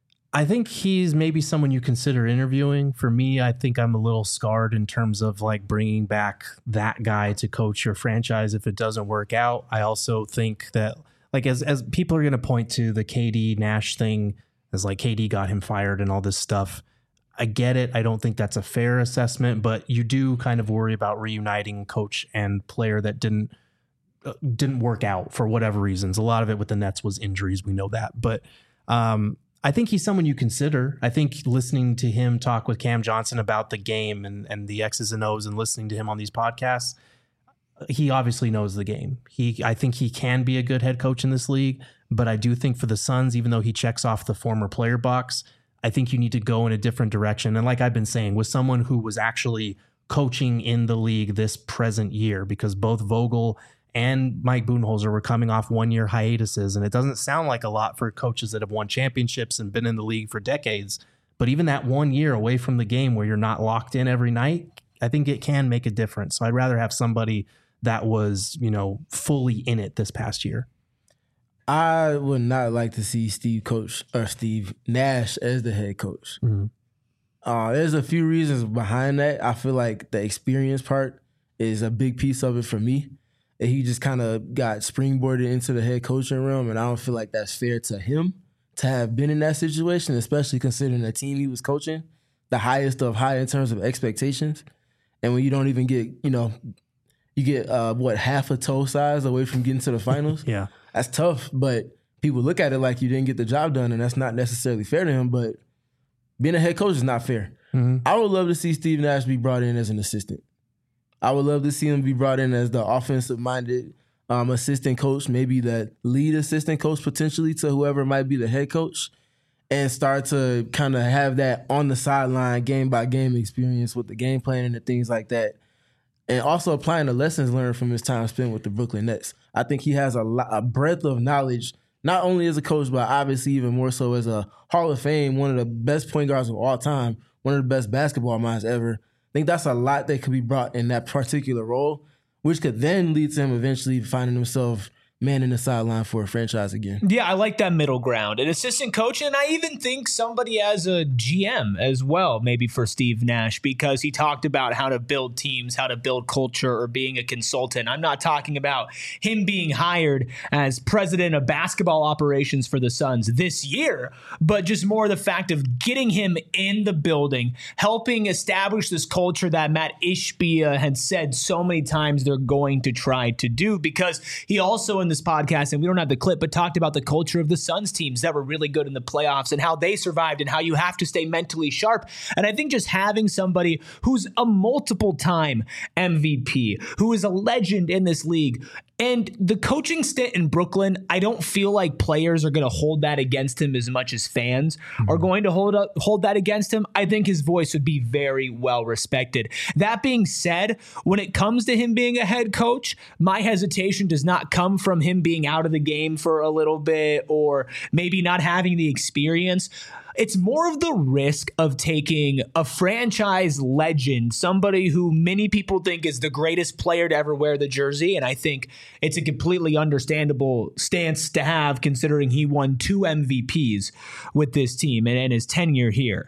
I think he's maybe someone you consider interviewing. For me, I think I'm a little scarred in terms of like bringing back that guy to coach your franchise if it doesn't work out. I also think that like as people are going to point to the KD Nash thing as like KD got him fired and all this stuff. I get it. I don't think that's a fair assessment, but you do kind of worry about reuniting coach and player that didn't work out for whatever reasons. A lot of it with the Nets was injuries. We know that, but I think he's someone you consider. I think listening to him talk with Cam Johnson about the game and the X's and O's and listening to him on these podcasts, he obviously knows the game. I think he can be a good head coach in this league, but I do think for the Suns, even though he checks off the former player box, I think you need to go in a different direction. And like I've been saying, with someone who was actually coaching in the league this present year, because both Vogel and Mike Budenholzer were coming off 1-year hiatuses, and it doesn't sound like a lot for coaches that have won championships and been in the league for decades. But even that 1 year away from the game where you're not locked in every night, I think it can make a difference. So I'd rather have somebody that was, fully in it this past year. I would not like to see Steve Nash as the head coach. There's a few reasons behind that. I feel like the experience part is a big piece of it for me. He just kind of got springboarded into the head coaching realm, and I don't feel like that's fair to him to have been in that situation, especially considering the team he was coaching, the highest of high in terms of expectations. And when you don't even get, you get, half a toe size away from getting to the finals? Yeah. That's tough, but people look at it like you didn't get the job done, and that's not necessarily fair to him, but being a head coach is not fair. I would love to see Steve Nash be brought in as an assistant. I would love to see him be brought in as the offensive-minded assistant coach, maybe the lead assistant coach potentially to whoever might be the head coach, and start to kind of have that on the sideline, game-by-game experience with the game planning and things like that, and also applying the lessons learned from his time spent with the Brooklyn Nets. I think he has a breadth of knowledge, not only as a coach, but obviously even more so as a Hall of Fame, one of the best point guards of all time, one of the best basketball minds ever. I think that's a lot that could be brought in that particular role, which could then lead to him eventually finding himself manning the sideline for a franchise again. Yeah, I like that middle ground. An assistant coach, and I even think somebody as a GM as well, maybe for Steve Nash, because he talked about how to build teams, how to build culture, or being a consultant. I'm not talking about him being hired as president of basketball operations for the Suns this year, but just more the fact of getting him in the building, helping establish this culture that Matt Ishbia had said so many times they're going to try to do, because he also in the this podcast, and we don't have the clip, but talked about the culture of the Suns teams that were really good in the playoffs and how they survived and how you have to stay mentally sharp. And I think just having somebody who's a multiple time MVP, who is a legend in this league, and the coaching stint in Brooklyn, I don't feel like players are going to hold that against him as much as fans are going to hold that against him. I think his voice would be very well respected. That being said, when it comes to him being a head coach, my hesitation does not come from him being out of the game for a little bit or maybe not having the experience. It's more of the risk of taking a franchise legend, somebody who many people think is the greatest player to ever wear the jersey. And I think it's a completely understandable stance to have considering he won 2 MVPs with this team and his tenure here.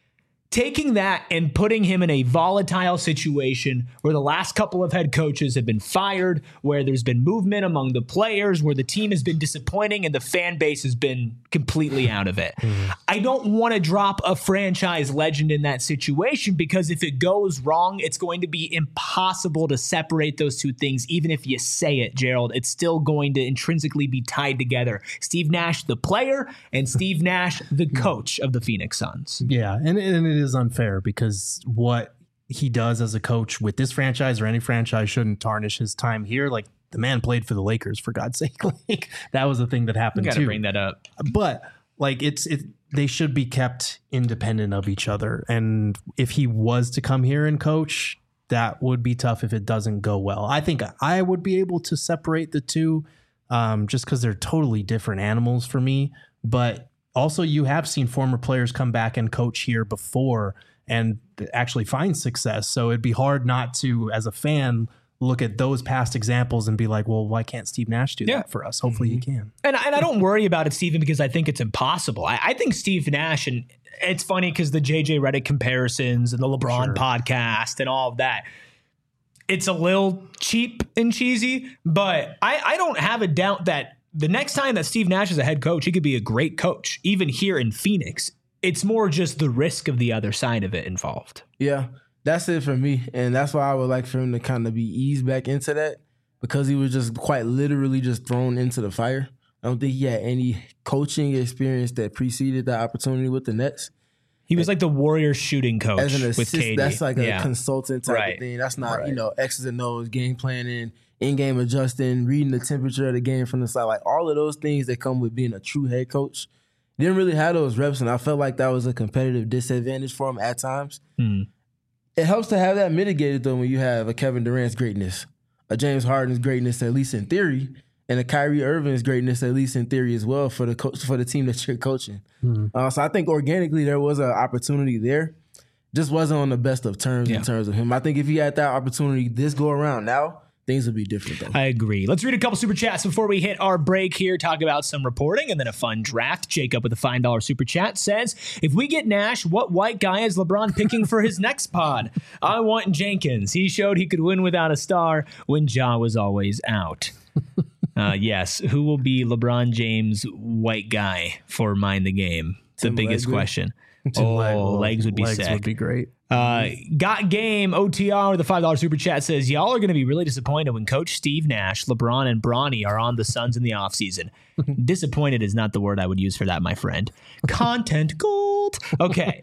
Taking that and putting him in a volatile situation where the last couple of head coaches have been fired, where there's been movement among the players, where the team has been disappointing and the fan base has been completely out of it. I don't want to drop a franchise legend in that situation because if it goes wrong, it's going to be impossible to separate those two things. Even if you say it, Gerald, it's still going to intrinsically be tied together. Steve Nash, the player, and Steve Nash, the coach of the Phoenix Suns. Yeah, and it is unfair because what he does as a coach with this franchise or any franchise shouldn't tarnish his time here. Like, the man played for the Lakers, for God's sake. Like, that was a thing that happened too. Got to bring that up. But like, they should be kept independent of each other. And if he was to come here and coach, that would be tough if it doesn't go well. I think I would be able to separate the two just because they're totally different animals for me. But also, you have seen former players come back and coach here before and actually find success. So it'd be hard not to, as a fan, look at those past examples and be like, well, why can't Steve Nash do that for us? Hopefully he can. And I don't worry about it, Stephen, because I think it's impossible. I think Steve Nash, and it's funny because the JJ Redick comparisons and the LeBron podcast and all of that, it's a little cheap and cheesy, but I don't have a doubt that the next time that Steve Nash is a head coach, he could be a great coach, even here in Phoenix. It's more just the risk of the other side of it involved. Yeah, that's it for me. And that's why I would like for him to kind of be eased back into that because he was just quite literally just thrown into the fire. I don't think he had any coaching experience that preceded that opportunity with the Nets. He was like the Warriors shooting coach as an with assist, KD. That's like a consultant type of thing. That's not, X's and O's, game planning, in-game adjusting, reading the temperature of the game from the side. Like all of those things that come with being a true head coach. Didn't really have those reps, and I felt like that was a competitive disadvantage for him at times. It helps to have that mitigated, though, when you have a Kevin Durant's greatness, a James Harden's greatness, at least in theory, and a Kyrie Irving's greatness, at least in theory as well, for the team that you're coaching. So I think organically there was an opportunity there. Just wasn't on the best of terms in terms of him. I think if he had that opportunity this go around now, things would be different, though. I agree. Let's read a couple super chats before we hit our break here, talk about some reporting and then a fun draft. Jacob with a $5 super chat says, if we get Nash, what white guy is LeBron picking for his next pod? I want Jenkins. He showed he could win without a star when Ja was always out. Yes. Who will be LeBron James' white guy for Mind the Game? It's the biggest question. Legs would be sick. Legs would be great. Got Game OTR with a $5 super chat says, y'all are going to be really disappointed when Coach Steve Nash, LeBron, and Bronny are on the Suns in the offseason. Disappointed is not the word I would use for that, my friend. Content gold. Okay.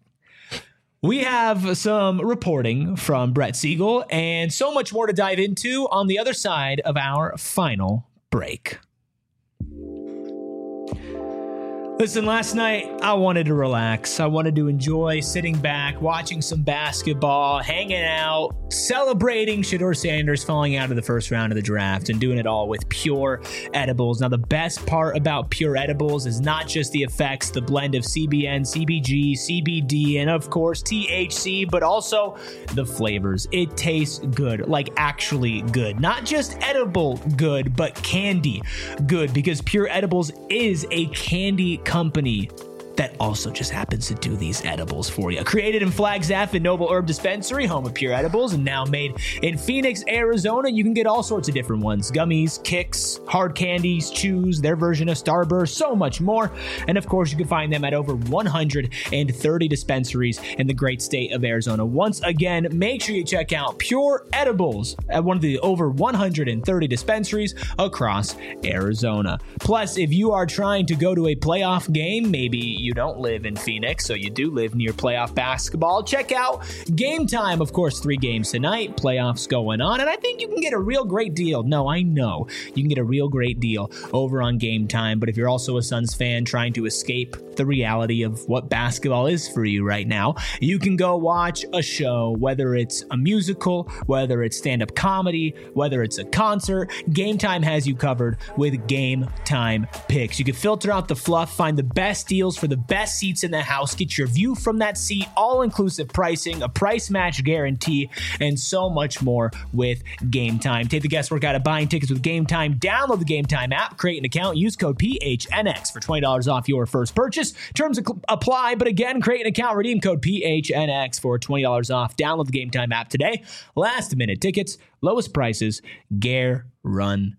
We have some reporting from Brett Siegel and so much more to dive into on the other side of our final break. Listen, last night I wanted to relax. I wanted to enjoy sitting back, watching some basketball, hanging out, celebrating Shedeur Sanders falling out of the first round of the draft, and doing it all with Pure Edibles. Now, the best part about Pure Edibles is not just the effects, the blend of CBN, CBG, CBD, and of course THC, but also the flavors. It tastes good, like actually good. Not just edible good, but candy good, because Pure Edibles is a candy company that also just happens to do these edibles for you. Created in Flagstaff and Noble Herb Dispensary, home of Pure Edibles, and now made in Phoenix, Arizona. You can get all sorts of different ones: gummies, kicks, hard candies, chews, their version of Starburst, so much more. And of course, you can find them at over 130 dispensaries in the great state of Arizona. Once again, make sure you check out Pure Edibles at one of the over 130 dispensaries across Arizona. Plus, if you are trying to go to a playoff game, maybe you don't live in Phoenix, so you do live near playoff basketball, check out Game Time. Of course, 3 games tonight, playoffs going on, and I think you can get a real great deal. No, I know you can get a real great deal over on Game Time, but if you're also a Suns fan trying to escape the reality of what basketball is for you right now, you can go watch a show, whether it's a musical, whether it's stand-up comedy, whether it's a concert. Game Time has you covered with Game Time picks. You can filter out the fluff, find the best deals for the best seats in the house, get your view from that seat, all-inclusive pricing, a price match guarantee, and so much more with Game Time. Take the guesswork out of buying tickets with Game Time. Download the Game Time app, create an account, use code PHNX for $20 off your first purchase. Terms apply, but again, create an account, redeem code PHNX for $20 off. Download the Game Time app today. Last minute tickets, lowest prices, guaranteed.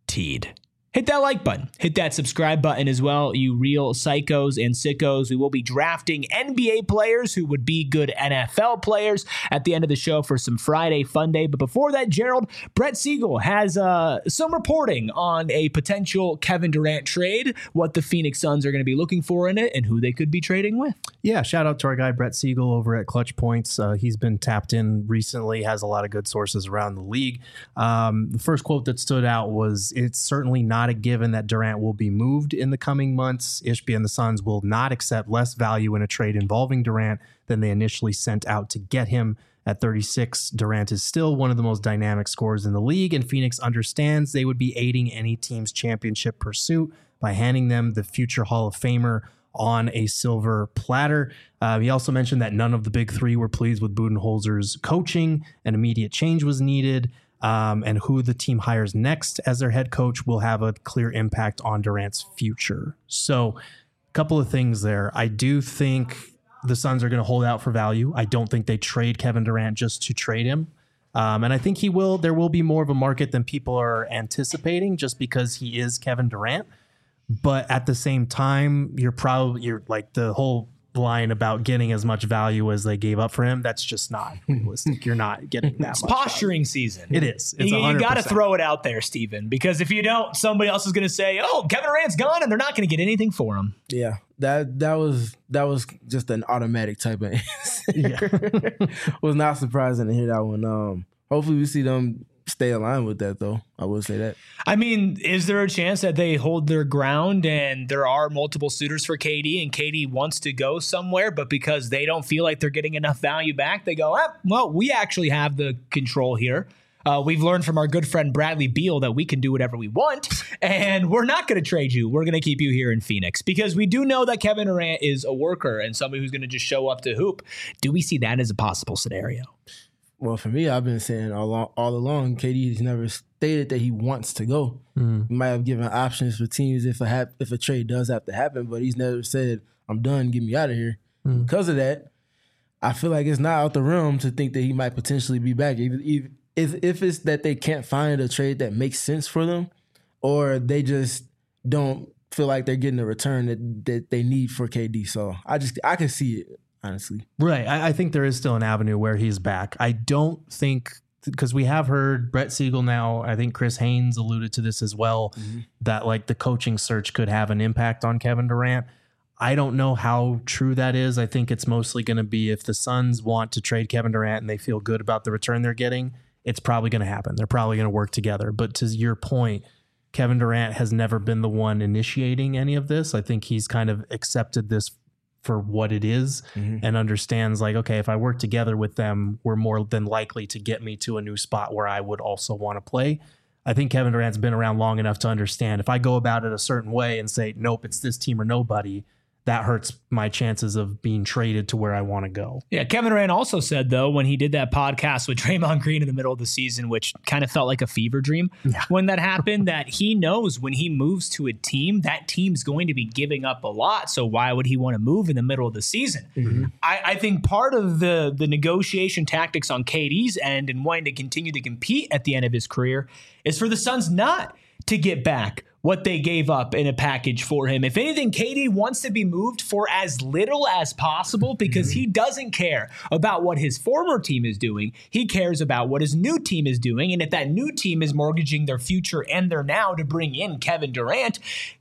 Hit that like button. Hit that subscribe button as well, you real psychos and sickos. We will be drafting NBA players who would be good NFL players at the end of the show for some Friday Fun Day. But before that, Gerald, Brett Siegel has some reporting on a potential Kevin Durant trade, what the Phoenix Suns are going to be looking for in it, and who they could be trading with. Yeah, shout out to our guy Brett Siegel over at Clutch Points. He's been tapped in recently, has a lot of good sources around the league. The first quote that stood out was, "It's certainly not a given that Durant will be moved in the coming months. Ishbia and the Suns will not accept less value in a trade involving Durant than they initially sent out to get him." At 36, Durant is still one of the most dynamic scorers in the league, and Phoenix understands they would be aiding any team's championship pursuit by handing them the future Hall of Famer on a silver platter. He also mentioned that none of the big three were pleased with Budenholzer's coaching, and immediate change was needed. And who the team hires next as their head coach will have a clear impact on Durant's future. So a couple of things there. I do think the Suns are going to hold out for value. I don't think they trade Kevin Durant just to trade him. And I think there will be more of a market than people are anticipating just because he is Kevin Durant. But at the same time, you're like the whole line about getting as much value as they gave up for him. That's just not realistic. You're not getting that it's much posturing value. season. It is. It's you got to throw it out there, Steven, because if you don't, somebody else is going to say, "Oh, Kevin Durant's gone," and they're not going to get anything for him. Yeah, that was just an automatic type of answer. Yeah. Was not surprising to hear that one. Hopefully we see them stay aligned with that, though. I will say that. I mean, is there a chance that they hold their ground and there are multiple suitors for KD and KD wants to go somewhere, but because they don't feel like they're getting enough value back, they go, well, we actually have the control here. We've learned from our good friend Bradley Beal that we can do whatever we want, and we're not going to trade you. We're going to keep you here in Phoenix because we do know that Kevin Durant is a worker and somebody who's going to just show up to hoop. Do we see that as a possible scenario? Well, for me, I've been saying all along, KD has never stated that he wants to go. He might have given options for teams if a trade does have to happen, but he's never said, "I'm done, get me out of here." Because of that, I feel like it's not out the realm to think that he might potentially be back. If it's that they can't find a trade that makes sense for them, or they just don't feel like they're getting the return that they need for KD. So I can see it. Honestly. Right. I think there is still an avenue where he's back. I don't think, because we have heard Brett Siegel now, I think Chris Haynes alluded to this as well, that like the coaching search could have an impact on Kevin Durant. I don't know how true that is. I think it's mostly going to be if the Suns want to trade Kevin Durant and they feel good about the return they're getting, it's probably going to happen. They're probably going to work together. But to your point, Kevin Durant has never been the one initiating any of this. I think he's kind of accepted this for what it is and understands like, okay, if I work together with them, we're more than likely to get me to a new spot where I would also want to play. I think Kevin Durant's been around long enough to understand if I go about it a certain way and say, nope, it's this team or nobody, that hurts my chances of being traded to where I want to go. Yeah, Kevin Durant also said, though, when he did that podcast with Draymond Green in the middle of the season, which kind of felt like a fever dream when that happened, that he knows when he moves to a team, that team's going to be giving up a lot. So why would he want to move in the middle of the season? Mm-hmm. I think part of the negotiation tactics on KD's end and wanting to continue to compete at the end of his career is for the Suns not to get back what they gave up in a package for him. If anything, KD wants to be moved for as little as possible because he doesn't care about what his former team is doing. He cares about what his new team is doing. And if that new team is mortgaging their future and their now to bring in Kevin Durant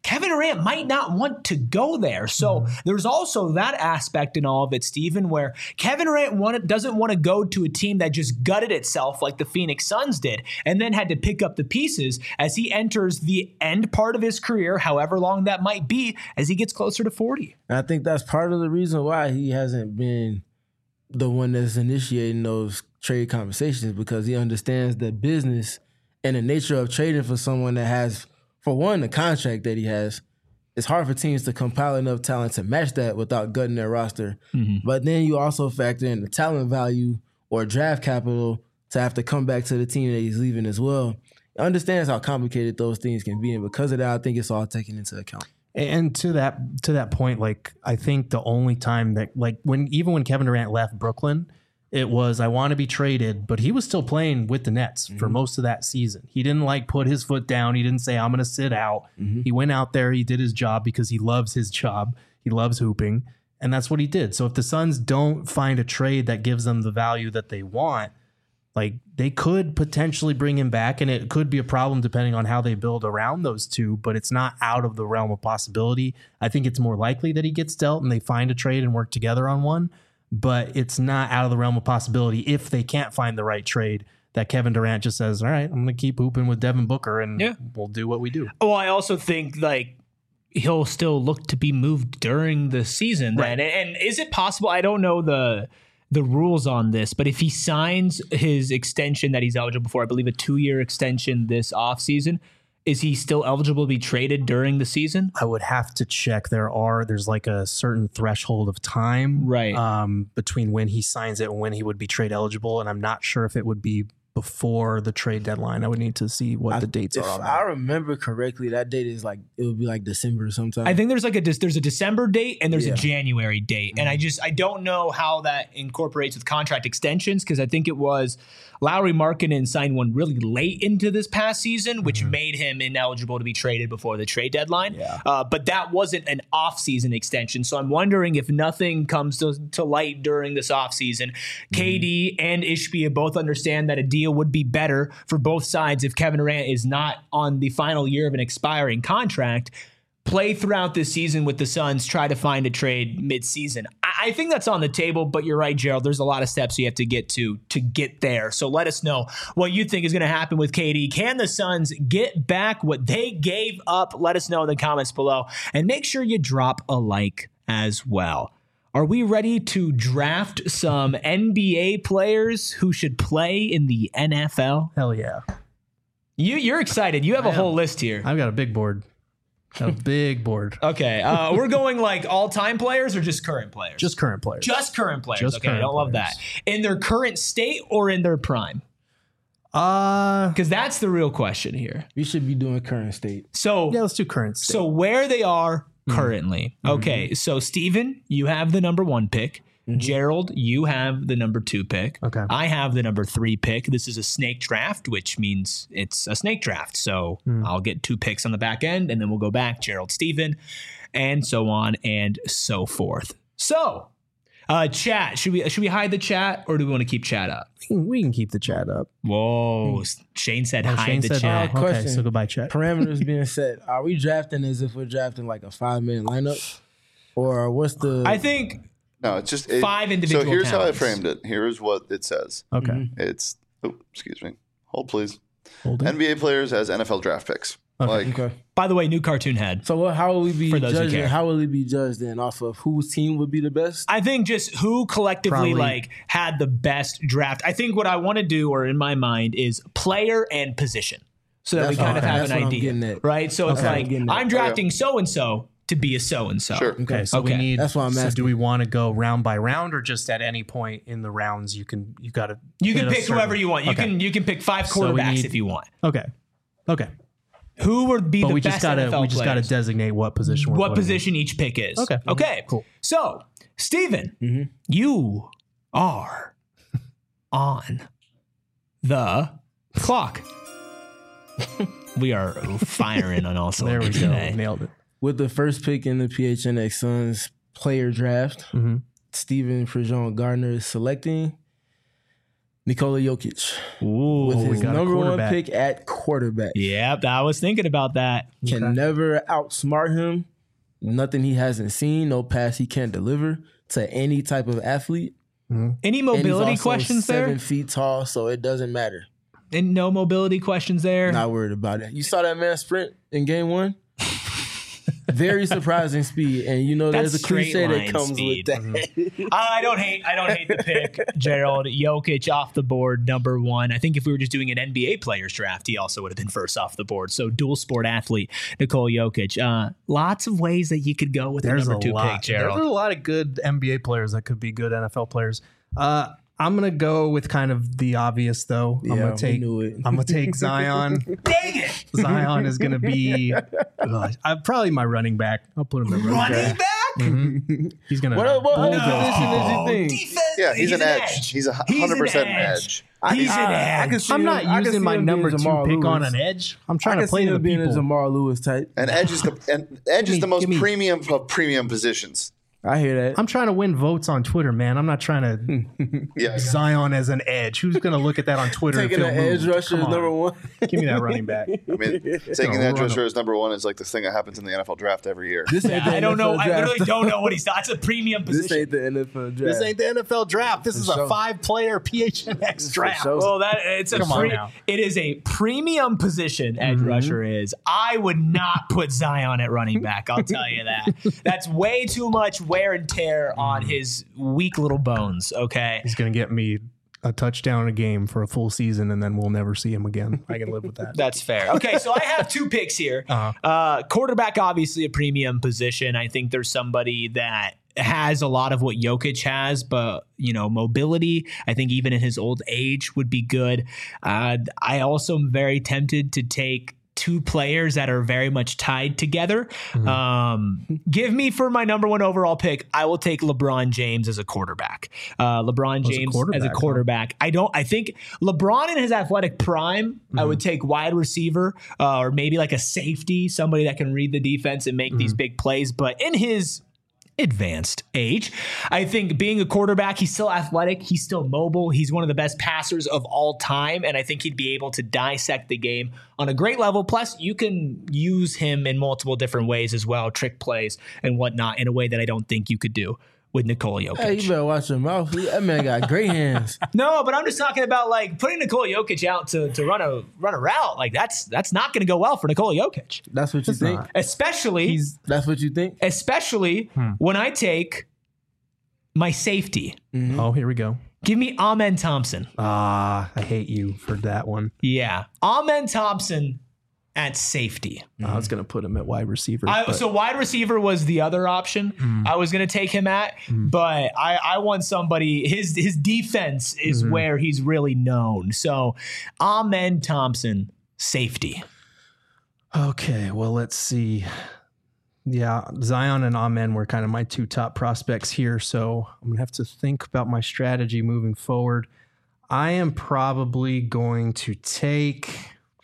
might not want to go there. So there's also that aspect in all of it, Stephen, where Kevin Durant doesn't want to go to a team that just gutted itself like the Phoenix Suns did and then had to pick up the pieces as he enters the end part of his career, however long that might be, as he gets closer to 40. And I think that's part of the reason why he hasn't been the one that's initiating those trade conversations, because he understands the business and the nature of trading for someone that has, for one, the contract that he has. It's hard for teams to compile enough talent to match that without gutting their roster. Mm-hmm. But then you also factor in the talent value or draft capital to have to come back to the team that he's leaving as well. Understands how complicated those things can be, and because of that, I think it's all taken into account. And to that point, like, I think the only time that, like, when Kevin Durant left Brooklyn, it was, I want to be traded, but he was still playing with the Nets for most of that season. He didn't put his foot down. He didn't say, I'm going to sit out. He went out there. He did his job because he loves his job. He loves hooping, and that's what he did. So if the Suns don't find a trade that gives them the value that they want, like, they could potentially bring him back, and it could be a problem depending on how they build around those two, but it's not out of the realm of possibility. I think it's more likely that he gets dealt and they find a trade and work together on one, but it's not out of the realm of possibility if they can't find the right trade that Kevin Durant just says, all right, I'm going to keep hooping with Devin Booker and we'll do what we do. Well, I also think, like, he'll still look to be moved during the season then. Right. And is it possible? I don't know the rules on this, but if he signs his extension that he's eligible for, I believe a 2-year extension this offseason, is he still eligible to be traded during the season? I would have to check. There's like a certain threshold of time between when he signs it and when he would be trade eligible. And I'm not sure if it would be before the trade deadline. I would need to see what the dates are on that. If I remember correctly, that date is like, it would be like December sometime. I think there's there's a December date and there's a January date. And I don't know how that incorporates with contract extensions, because I think it was Lauri Markkanen signed one really late into this past season, which made him ineligible to be traded before the trade deadline. Yeah. But that wasn't an off-season extension. So I'm wondering if nothing comes to light during this off-season. KD and Ishbia both understand that a deal would be better for both sides if Kevin Durant is not on the final year of an expiring contract. Play throughout this season with the Suns, try to find a trade mid-season. I think that's on the table, but you're right, Gerald. There's a lot of steps you have to get to get there. So let us know what you think is going to happen with KD. Can the Suns get back what they gave up? Let us know in the comments below. And make sure you drop a like as well. Are we ready to draft some NBA players who should play in the NFL? Hell yeah. You're excited. You have a whole list here. I've got a big board. A big board. Okay. We're going like all-time players or just current players? Just current players. Just current players. Okay, I don't love that. In their current state or in their prime? Because that's the real question here. We should be doing current state. So yeah, let's do current state. So where they are currently. Okay, so Steven, you have the number 1 pick. Gerald, you have the number 2 pick. Okay. I have the number 3 pick. This is a snake draft, which means it's a snake draft. So I'll get 2 picks on the back end, and then we'll go back, Gerald, Steven, and so on and so forth. So, chat, should we hide the chat, or do we want to keep chat up? We can keep the chat up. Whoa. Shane said hide the chat. Okay, question. So goodbye, chat. Parameters being set. Are we drafting as if we're drafting like a 5-man lineup? Or what's the... I think... No, it's just 5 individual. So here's talents. how I framed it. Here's what it says. Okay. It's excuse me. Hold please. Hold it. NBA players as NFL draft picks. Okay. By the way, new cartoon head. So how will we be For those who judging? care. How will we be judged then? Off of whose team would be the best? I think just who collectively Probably. had the best draft. I think what I want to do, or in my mind, is player and position, so that we kind of have an idea, right? So it's like I'm drafting so and so to be a so-and-so. Sure. Okay, so Okay. we need. That's why I'm so asking. do we want to go round by round, or just at any point in the rounds you got to? You can pick whoever you want. You can pick 5 So we quarterbacks need- if you want. Okay. Who would be But the we best just gotta NFL we just gotta players? designate what position. We're What putting in. position each pick is. Okay. Okay. Cool. So, Steven, you are on the clock. We are firing on all There we cylinders go. today. Nailed it. With the first pick in the PHNX Suns player draft, Steven Prejean Gardner is selecting Nikola Jokic Ooh. with his we got a number one quarterback. pick at quarterback. Yep, I was thinking about that. Can never outsmart him. Nothing he hasn't seen, no pass he can't deliver to any type of athlete. Any And he's mobility also questions 7 there? feet tall, so it doesn't matter. And no mobility questions there? Not worried about it. You saw that man sprint in game 1? Very surprising speed, and you know That's there's a cliche straight that line comes speed. with that. I don't hate the pick, Gerald. Jokic off the board, number 1. I think if we were just doing an NBA players draft, he also would have been first off the board. So dual sport athlete, Nikola Jokic. Lots of ways that you could go with the number 2 pick, Gerald. There's a lot of good NBA players that could be good NFL players. I'm gonna go with kind of the obvious though. I'm we knew it. gonna take Zion. Dang it! Zion is gonna be probably my running back. I'll put him at running back. Running back? He's gonna. What bull position those people. did you think? Defense. Yeah, he's an edge. He's 100% an edge. He's an I edge. can see I'm him- not I can using see my him number being 2 Jamal pick on Lewis. an edge. I'm I trying can to play see to the him being a people. Jamal Lewis type. And edge is the most premium of premium positions. I hear that. I'm trying to win votes on Twitter, man. I'm not trying to Yeah. Zion as an edge. Who's going to look at that on Twitter Taking and an feel edge moved? rusher Come is on. number 1. Give me that running back. I mean, taking the edge rusher as number 1 is like the thing that happens in the NFL draft every year. This ain't the I don't know. NFL I draft. literally don't know what he's. That's a premium This position. ain't the NFL draft. This ain't the NFL draft. This is a sure. 5-player PHNX draft. sure. Well, it's Come on now. it is a premium position. Edge rusher is. I would not put Zion at running back. I'll tell you that. That's way too much wear and tear on his weak little bones. Okay. He's going to get me a touchdown a game for a full season, and then we'll never see him again. I can live with that. That's fair. Okay, so I have 2 picks here. Quarterback, obviously a premium position. I think there's somebody that has a lot of what Jokic has, but mobility, I think even in his old age would be good. I also am very tempted to take 2 players that are very much tied together. Give me for my number 1 overall pick, I will take LeBron James as a quarterback. LeBron James as a quarterback. I think LeBron in his athletic prime, I would take wide receiver or maybe like a safety, somebody that can read the defense and make these big plays. But in his advanced age, I think being a quarterback, he's still athletic, he's still mobile, he's one of the best passers of all time, and I think he'd be able to dissect the game on a great level. Plus, you can use him in multiple different ways as well, trick plays and whatnot, in a way that I don't think you could do with Nikola Jokic. Hey, you better watch your mouth. That man got great hands. No, but I'm just talking about like putting Nikola Jokic out to run a route. Like that's not going to go well for Nikola Jokic, That's what you think? especially That's what you think? when I take my safety. Oh, here we go. Give me Amen Thompson. I hate you for that one. Yeah, Amen Thompson at safety. I was going to put him at wide receiver. So wide receiver was the other option I was going to take him at, but I want somebody, his defense is where he's really known. So Amen Thompson, safety. Okay, well, let's see. Yeah, Zion and Amen were kind of my 2 top prospects here, so I'm going to have to think about my strategy moving forward. I am probably going to take...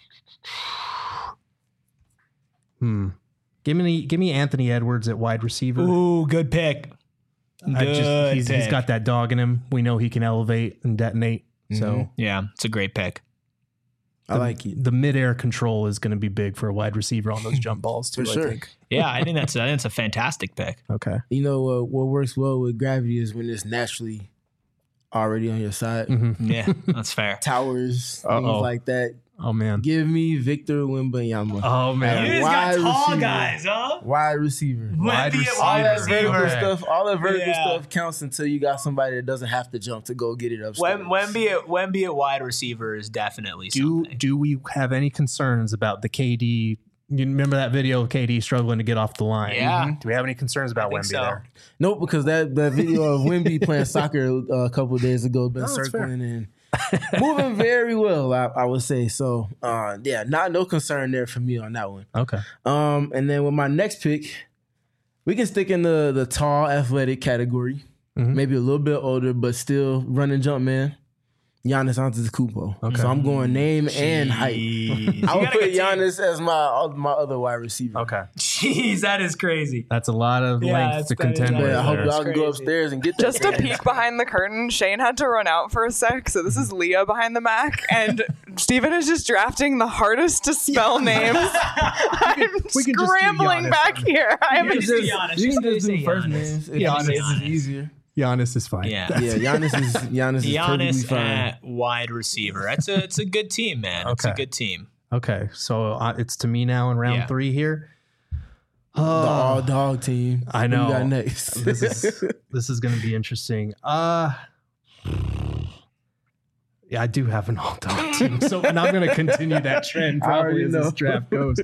Give me Anthony Edwards at wide receiver. Ooh, good pick. He's got that dog in him. We know he can elevate and detonate. So Yeah, it's a great pick. I like it. the midair control is going to be big for a wide receiver on those jump balls too. For sure. I think. Yeah, I think that's a fantastic pick. Okay. You know what works well with gravity is when it's naturally already on your side. Yeah, that's fair. Towers, things Uh-oh. like that. Oh man. Give me Victor Wembanyama. Oh man. You just Wide got tall receiver. guys, huh? Wide receiver. Wide receiver. All that vertical receiver. stuff, all that vertical Yeah. stuff counts until you got somebody that doesn't have to jump to go get it upstairs. Wemby at wide receiver is definitely something. Do we have any concerns about the KD You remember that video of KD struggling to get off the line? Yeah. Do we have any concerns about Wemby there? Nope, because that video of Wemby playing soccer a couple of days ago been circling and moving very well, I would say. So, no concern there for me on that one. Okay. And then with my next pick, we can stick in the tall, athletic category. Maybe a little bit older, but still run and jump man. Giannis Antetokounmpo. Okay. So I'm going name and height. I would put Giannis as my other wide receiver. Okay. Jeez, that is crazy. That's a lot of length to contend with. I hope y'all can go upstairs and get that. Just a peek behind the curtain. Shane had to run out for a sec, so this is Leah behind the Mac, and Steven is just drafting the hardest to spell names. I'm scrambling back here. I haven't just be honest. You can Just just do say first Giannis. names. Giannis. It's easier. Giannis is fine. Yeah. Giannis is perfectly Giannis fine. at wide receiver. It's a good team, man. It's a good team. Okay. So it's to me now in round 3 here. The all dog team. I know. Who you got next? This is going to be interesting. Yeah, I do have an all dog team, and I'm going to continue that trend probably as this draft goes.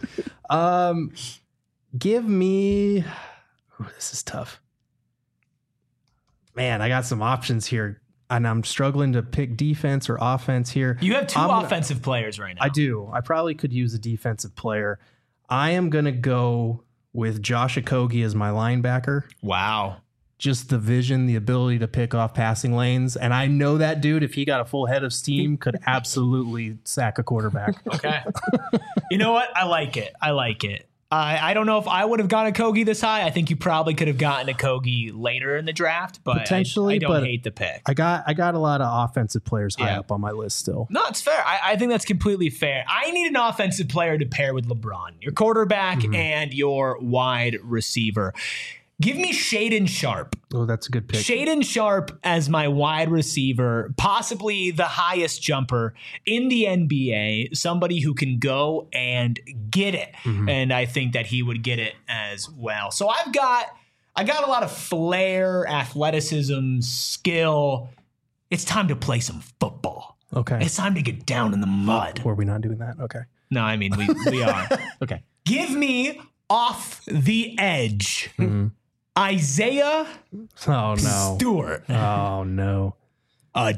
Give me. Ooh, this is tough. Man, I got some options here, and I'm struggling to pick defense or offense here. You have two offensive players right now. I do. I probably could use a defensive player. I am going to go with Josh Okogie as my linebacker. Wow. Just the vision, the ability to pick off passing lanes. And I know that dude, if he got a full head of steam, could absolutely sack a quarterback. Okay. You know what? I like it. I don't know if I would have gotten Okogie this high. I think you probably could have gotten Okogie later in the draft, but potentially, I don't hate the pick. I got a lot of offensive players high up on my list still. No, it's fair. I think that's completely fair. I need an offensive player to pair with LeBron, your quarterback and your wide receiver. Give me Shaedon Sharpe. Oh, that's a good pick. Shaedon Sharpe as my wide receiver, possibly the highest jumper in the NBA, somebody who can go and get it. And I think that he would get it as well. So I got a lot of flair, athleticism, skill. It's time to play some football. Okay. It's time to get down in the mud. Or are we not doing that? Okay. No, I mean, we are. Okay. Give me off the edge. Isaiah Stewart. Oh no. A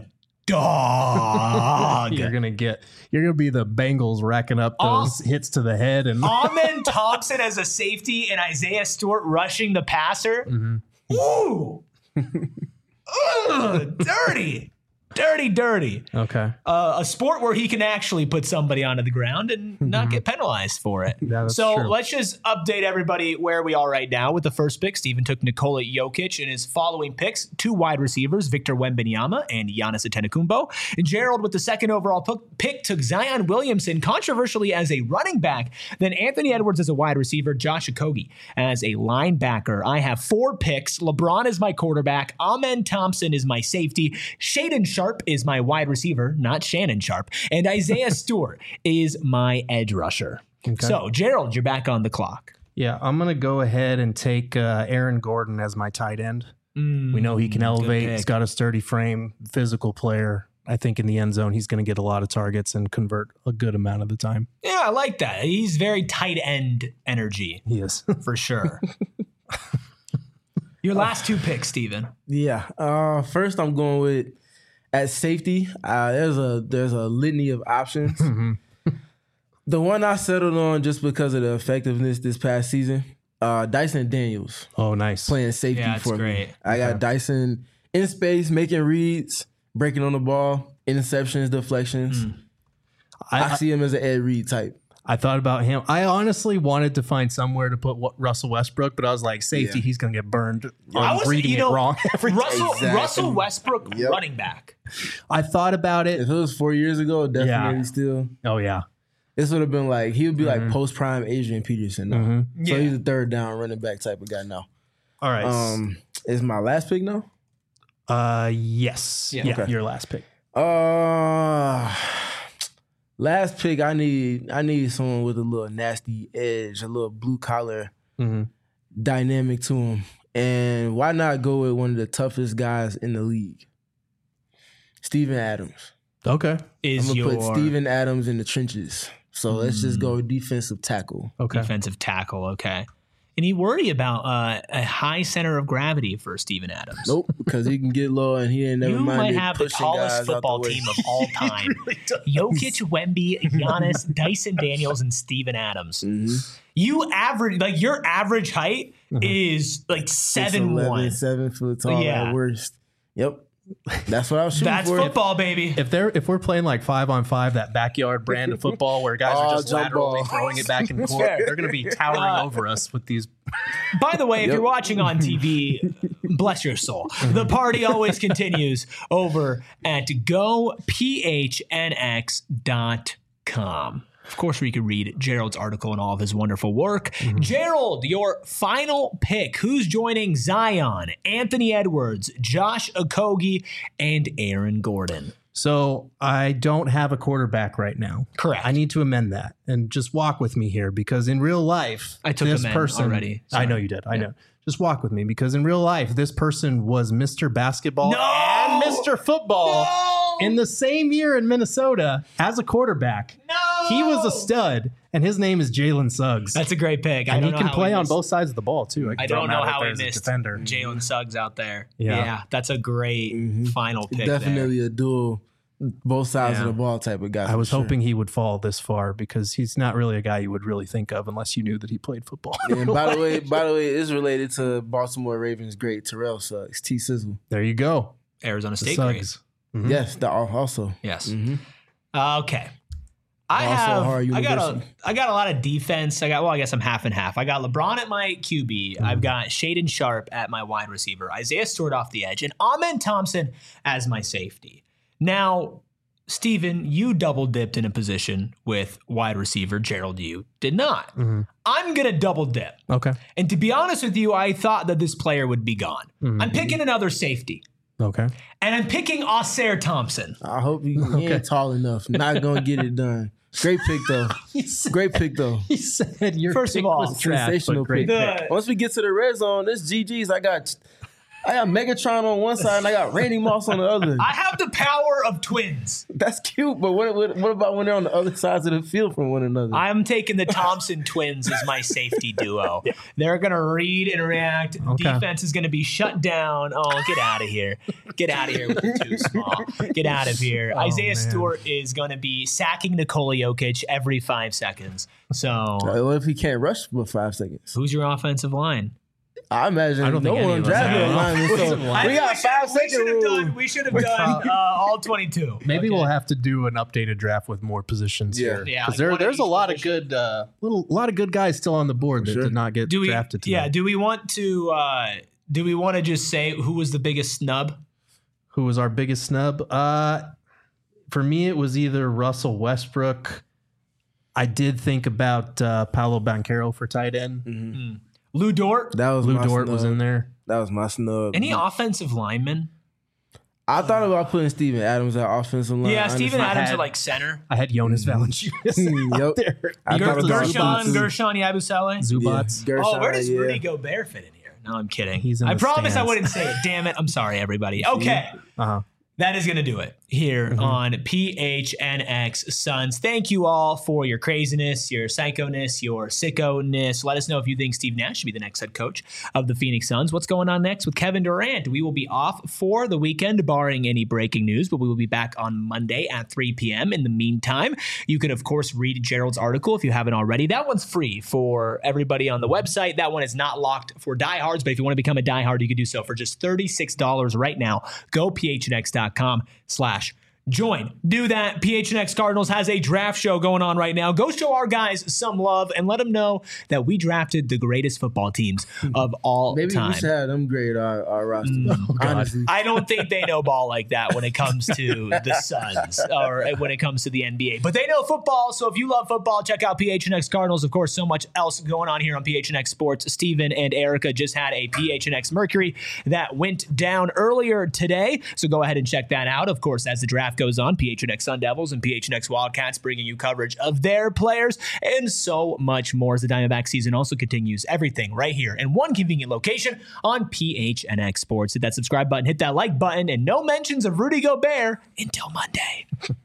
dog. You're gonna be the Bengals racking up those hits to the head and Amen Thompson as a safety and Isaiah Stewart rushing the passer. Ooh. Ugh, dirty. Okay. A sport where he can actually put somebody onto the ground and not get penalized for it. Yeah, that's so true. let's just update everybody where we are right now with the first pick. Steven took Nikola Jokic and his following picks, 2 wide receivers, Victor Wembanyama and Giannis Antetokounmpo. And Gerald with the second overall pick took Zion Williamson, controversially as a running back, then Anthony Edwards as a wide receiver, Josh Okogie as a linebacker. I have 4 picks. LeBron is my quarterback. Amen Thompson is my safety. Shaedon Sharpe is my wide receiver, not Shannon Sharpe. And Isaiah Stewart is my edge rusher. Okay. So, Gerald, you're back on the clock. Yeah, I'm going to go ahead and take Aaron Gordon as my tight end. We know he can elevate. He's got a sturdy frame, physical player. I think in the end zone, he's going to get a lot of targets and convert a good amount of the time. Yeah, I like that. He's very tight end energy. He is. For sure. Your last 2 picks, Steven. Yeah. First, I'm going with at safety. There's a litany of options. The one I settled on just because of the effectiveness this past season, Dyson Daniels. Oh, nice. Playing safety for great. me. I got Dyson in space, making reads, breaking on the ball, interceptions, deflections. I see him as an Ed Reed type. I thought about him. I honestly wanted to find somewhere to put Russell Westbrook, but I was like, safety, he's going to get burned on reading it wrong every time. Russell Westbrook, running back. I thought about it. If it was 4 years ago, definitely still. Oh, yeah. This would have been like, he would be like post-prime Adrian Peterson now. So he's a third down running back type of guy now. All right. Is my last pick now? Yes. Yeah, your last pick. Last pick, I need someone with a little nasty edge, a little blue collar dynamic to him. And why not go with one of the toughest guys in the league? Steven Adams. Okay. I'm gonna put Steven Adams in the trenches So let's just go defensive tackle. Okay. Defensive tackle. Okay. Any worry about a high center of gravity for Steven Adams? Nope, because he can get low and he ain't never You minded might have the pushing tallest guys out football the way. team of all time. Jokic, Wemby, Giannis, Dyson Daniels, and Steven Adams. You average, like, your average height is like 7'1". 7 foot tall Yeah. at worst. Yep. That's what I was shooting That's for. football, baby. If we're playing like 5-on-5, that backyard brand of football where guys are just jump laterally ball. throwing it back and forth, they're going to be towering over us with these. By the way, if you're watching on TV, bless your soul. The party always continues over at gophnx.com. Of course, where you can read Gerald's article and all of his wonderful work. Gerald, your final pick. Who's joining Zion, Anthony Edwards, Josh Okogie, and Aaron Gordon? So I don't have a quarterback right now. Correct. I need to amend that and just walk with me here because in real life, I took this amend person already. I know you did. I know. Just walk with me because in real life, this person was Mr. Basketball and Mr. Football in the same year in Minnesota as a quarterback. No! He was a stud, and his name is Jalen Suggs. That's a great pick. And he can play on both sides of the ball, too. I don't know how he missed Jalen Suggs out there. Yeah, that's a great final pick. Definitely a dual, both sides of the ball type of guy. I was hoping he would fall this far because he's not really a guy you would really think of unless you knew that he played football. And by the way, it's related to Baltimore Ravens great Terrell Suggs, T Sizzle. There you go. Arizona State Suggs. great. Yes, also. Yes. Okay. I got a lot of defense. I guess I'm half and half. I got LeBron at my QB. I've got Shaden Sharp at my wide receiver. Isaiah Stewart off the edge. And Amen Thompson as my safety. Now, Steven, you double dipped in a position with wide receiver. Gerald, you did not. I'm going to double dip. Okay. And to be honest with you, I thought that this player would be gone. I'm picking another safety. Okay. And I'm picking Ausar Thompson. I hope he ain't tall enough. Not going to get it done. Great pick, though. Great pick, though. He said your First pick of all, was trash, sensational but great pick. Once we get to the red zone, this GG's. I got Megatron on one side and I got Randy Moss on the other. I have the power of twins. That's cute, but what about when they're on the other sides of the field from one another? I'm taking the Thompson twins as my safety duo. They're going to read and react. Okay. Defense is going to be shut down. Oh, get out of here. Get out of here with the too small. Get out of here. Isaiah Stewart is going to be sacking Nikola Jokic every 5 seconds. So what if he can't rush for 5 seconds? who's your offensive line? I imagine I don't think any one of us drafted have a lineman. So we got 5 second rule. We should have done all 22. Maybe we'll have to do an updated draft with more positions here. Yeah, because like there's a lot of position. good, lot of good guys still on the board that did not get drafted today. Yeah. Do we want to just say who was the biggest snub? Who was our biggest snub? For me, it was either Russell Westbrook. I did think about Paolo Banchero for tight end. Lou Dort. Lou Dort was in there. That was my snub. Any offensive linemen? I thought about putting Steven Adams at offensive line. Yeah, Steven Adams at like center. I had Jonas Valanciunas out there. Gershon Yabusele. Zubats. Oh, where does Rudy Gobert fit in here? No, I'm kidding. He's in I the promise I stands. wouldn't say it. Damn it. I'm sorry, everybody. Okay. That is going to do it here on PHNX Suns. Thank you all for your craziness, your psychoness, your sicko-ness. Let us know if you think Steve Nash should be the next head coach of the Phoenix Suns. What's going on next with Kevin Durant? We will be off for the weekend, barring any breaking news, but we will be back on Monday at 3 p.m. In the meantime, you can, of course, read Gerald's article if you haven't already. That one's free for everybody on the website. That one is not locked for diehards, but if you want to become a diehard, you can do so for just $36 right now. Go phnx.com/join. Do that. PHNX Cardinals has a draft show going on right now. Go show our guys some love and let them know that we drafted the greatest football teams of all Maybe time. we should have them grade our roster. Honestly. I don't think they know ball like that when it comes to the Suns or when it comes to the NBA. But they know football, so if you love football, check out PHNX Cardinals. Of course, so much else going on here on PHNX Sports. Steven and Erica just had a PHNX Mercury that went down earlier today, so go ahead and check that out. Of course, as the draft goes on, PHNX Sun Devils and PHNX Wildcats bringing you coverage of their players and so much more as the Diamondback season also continues. Everything right here in one convenient location on PHNX Sports. Hit that subscribe button, hit that like button, and no mentions of Rudy Gobert until Monday.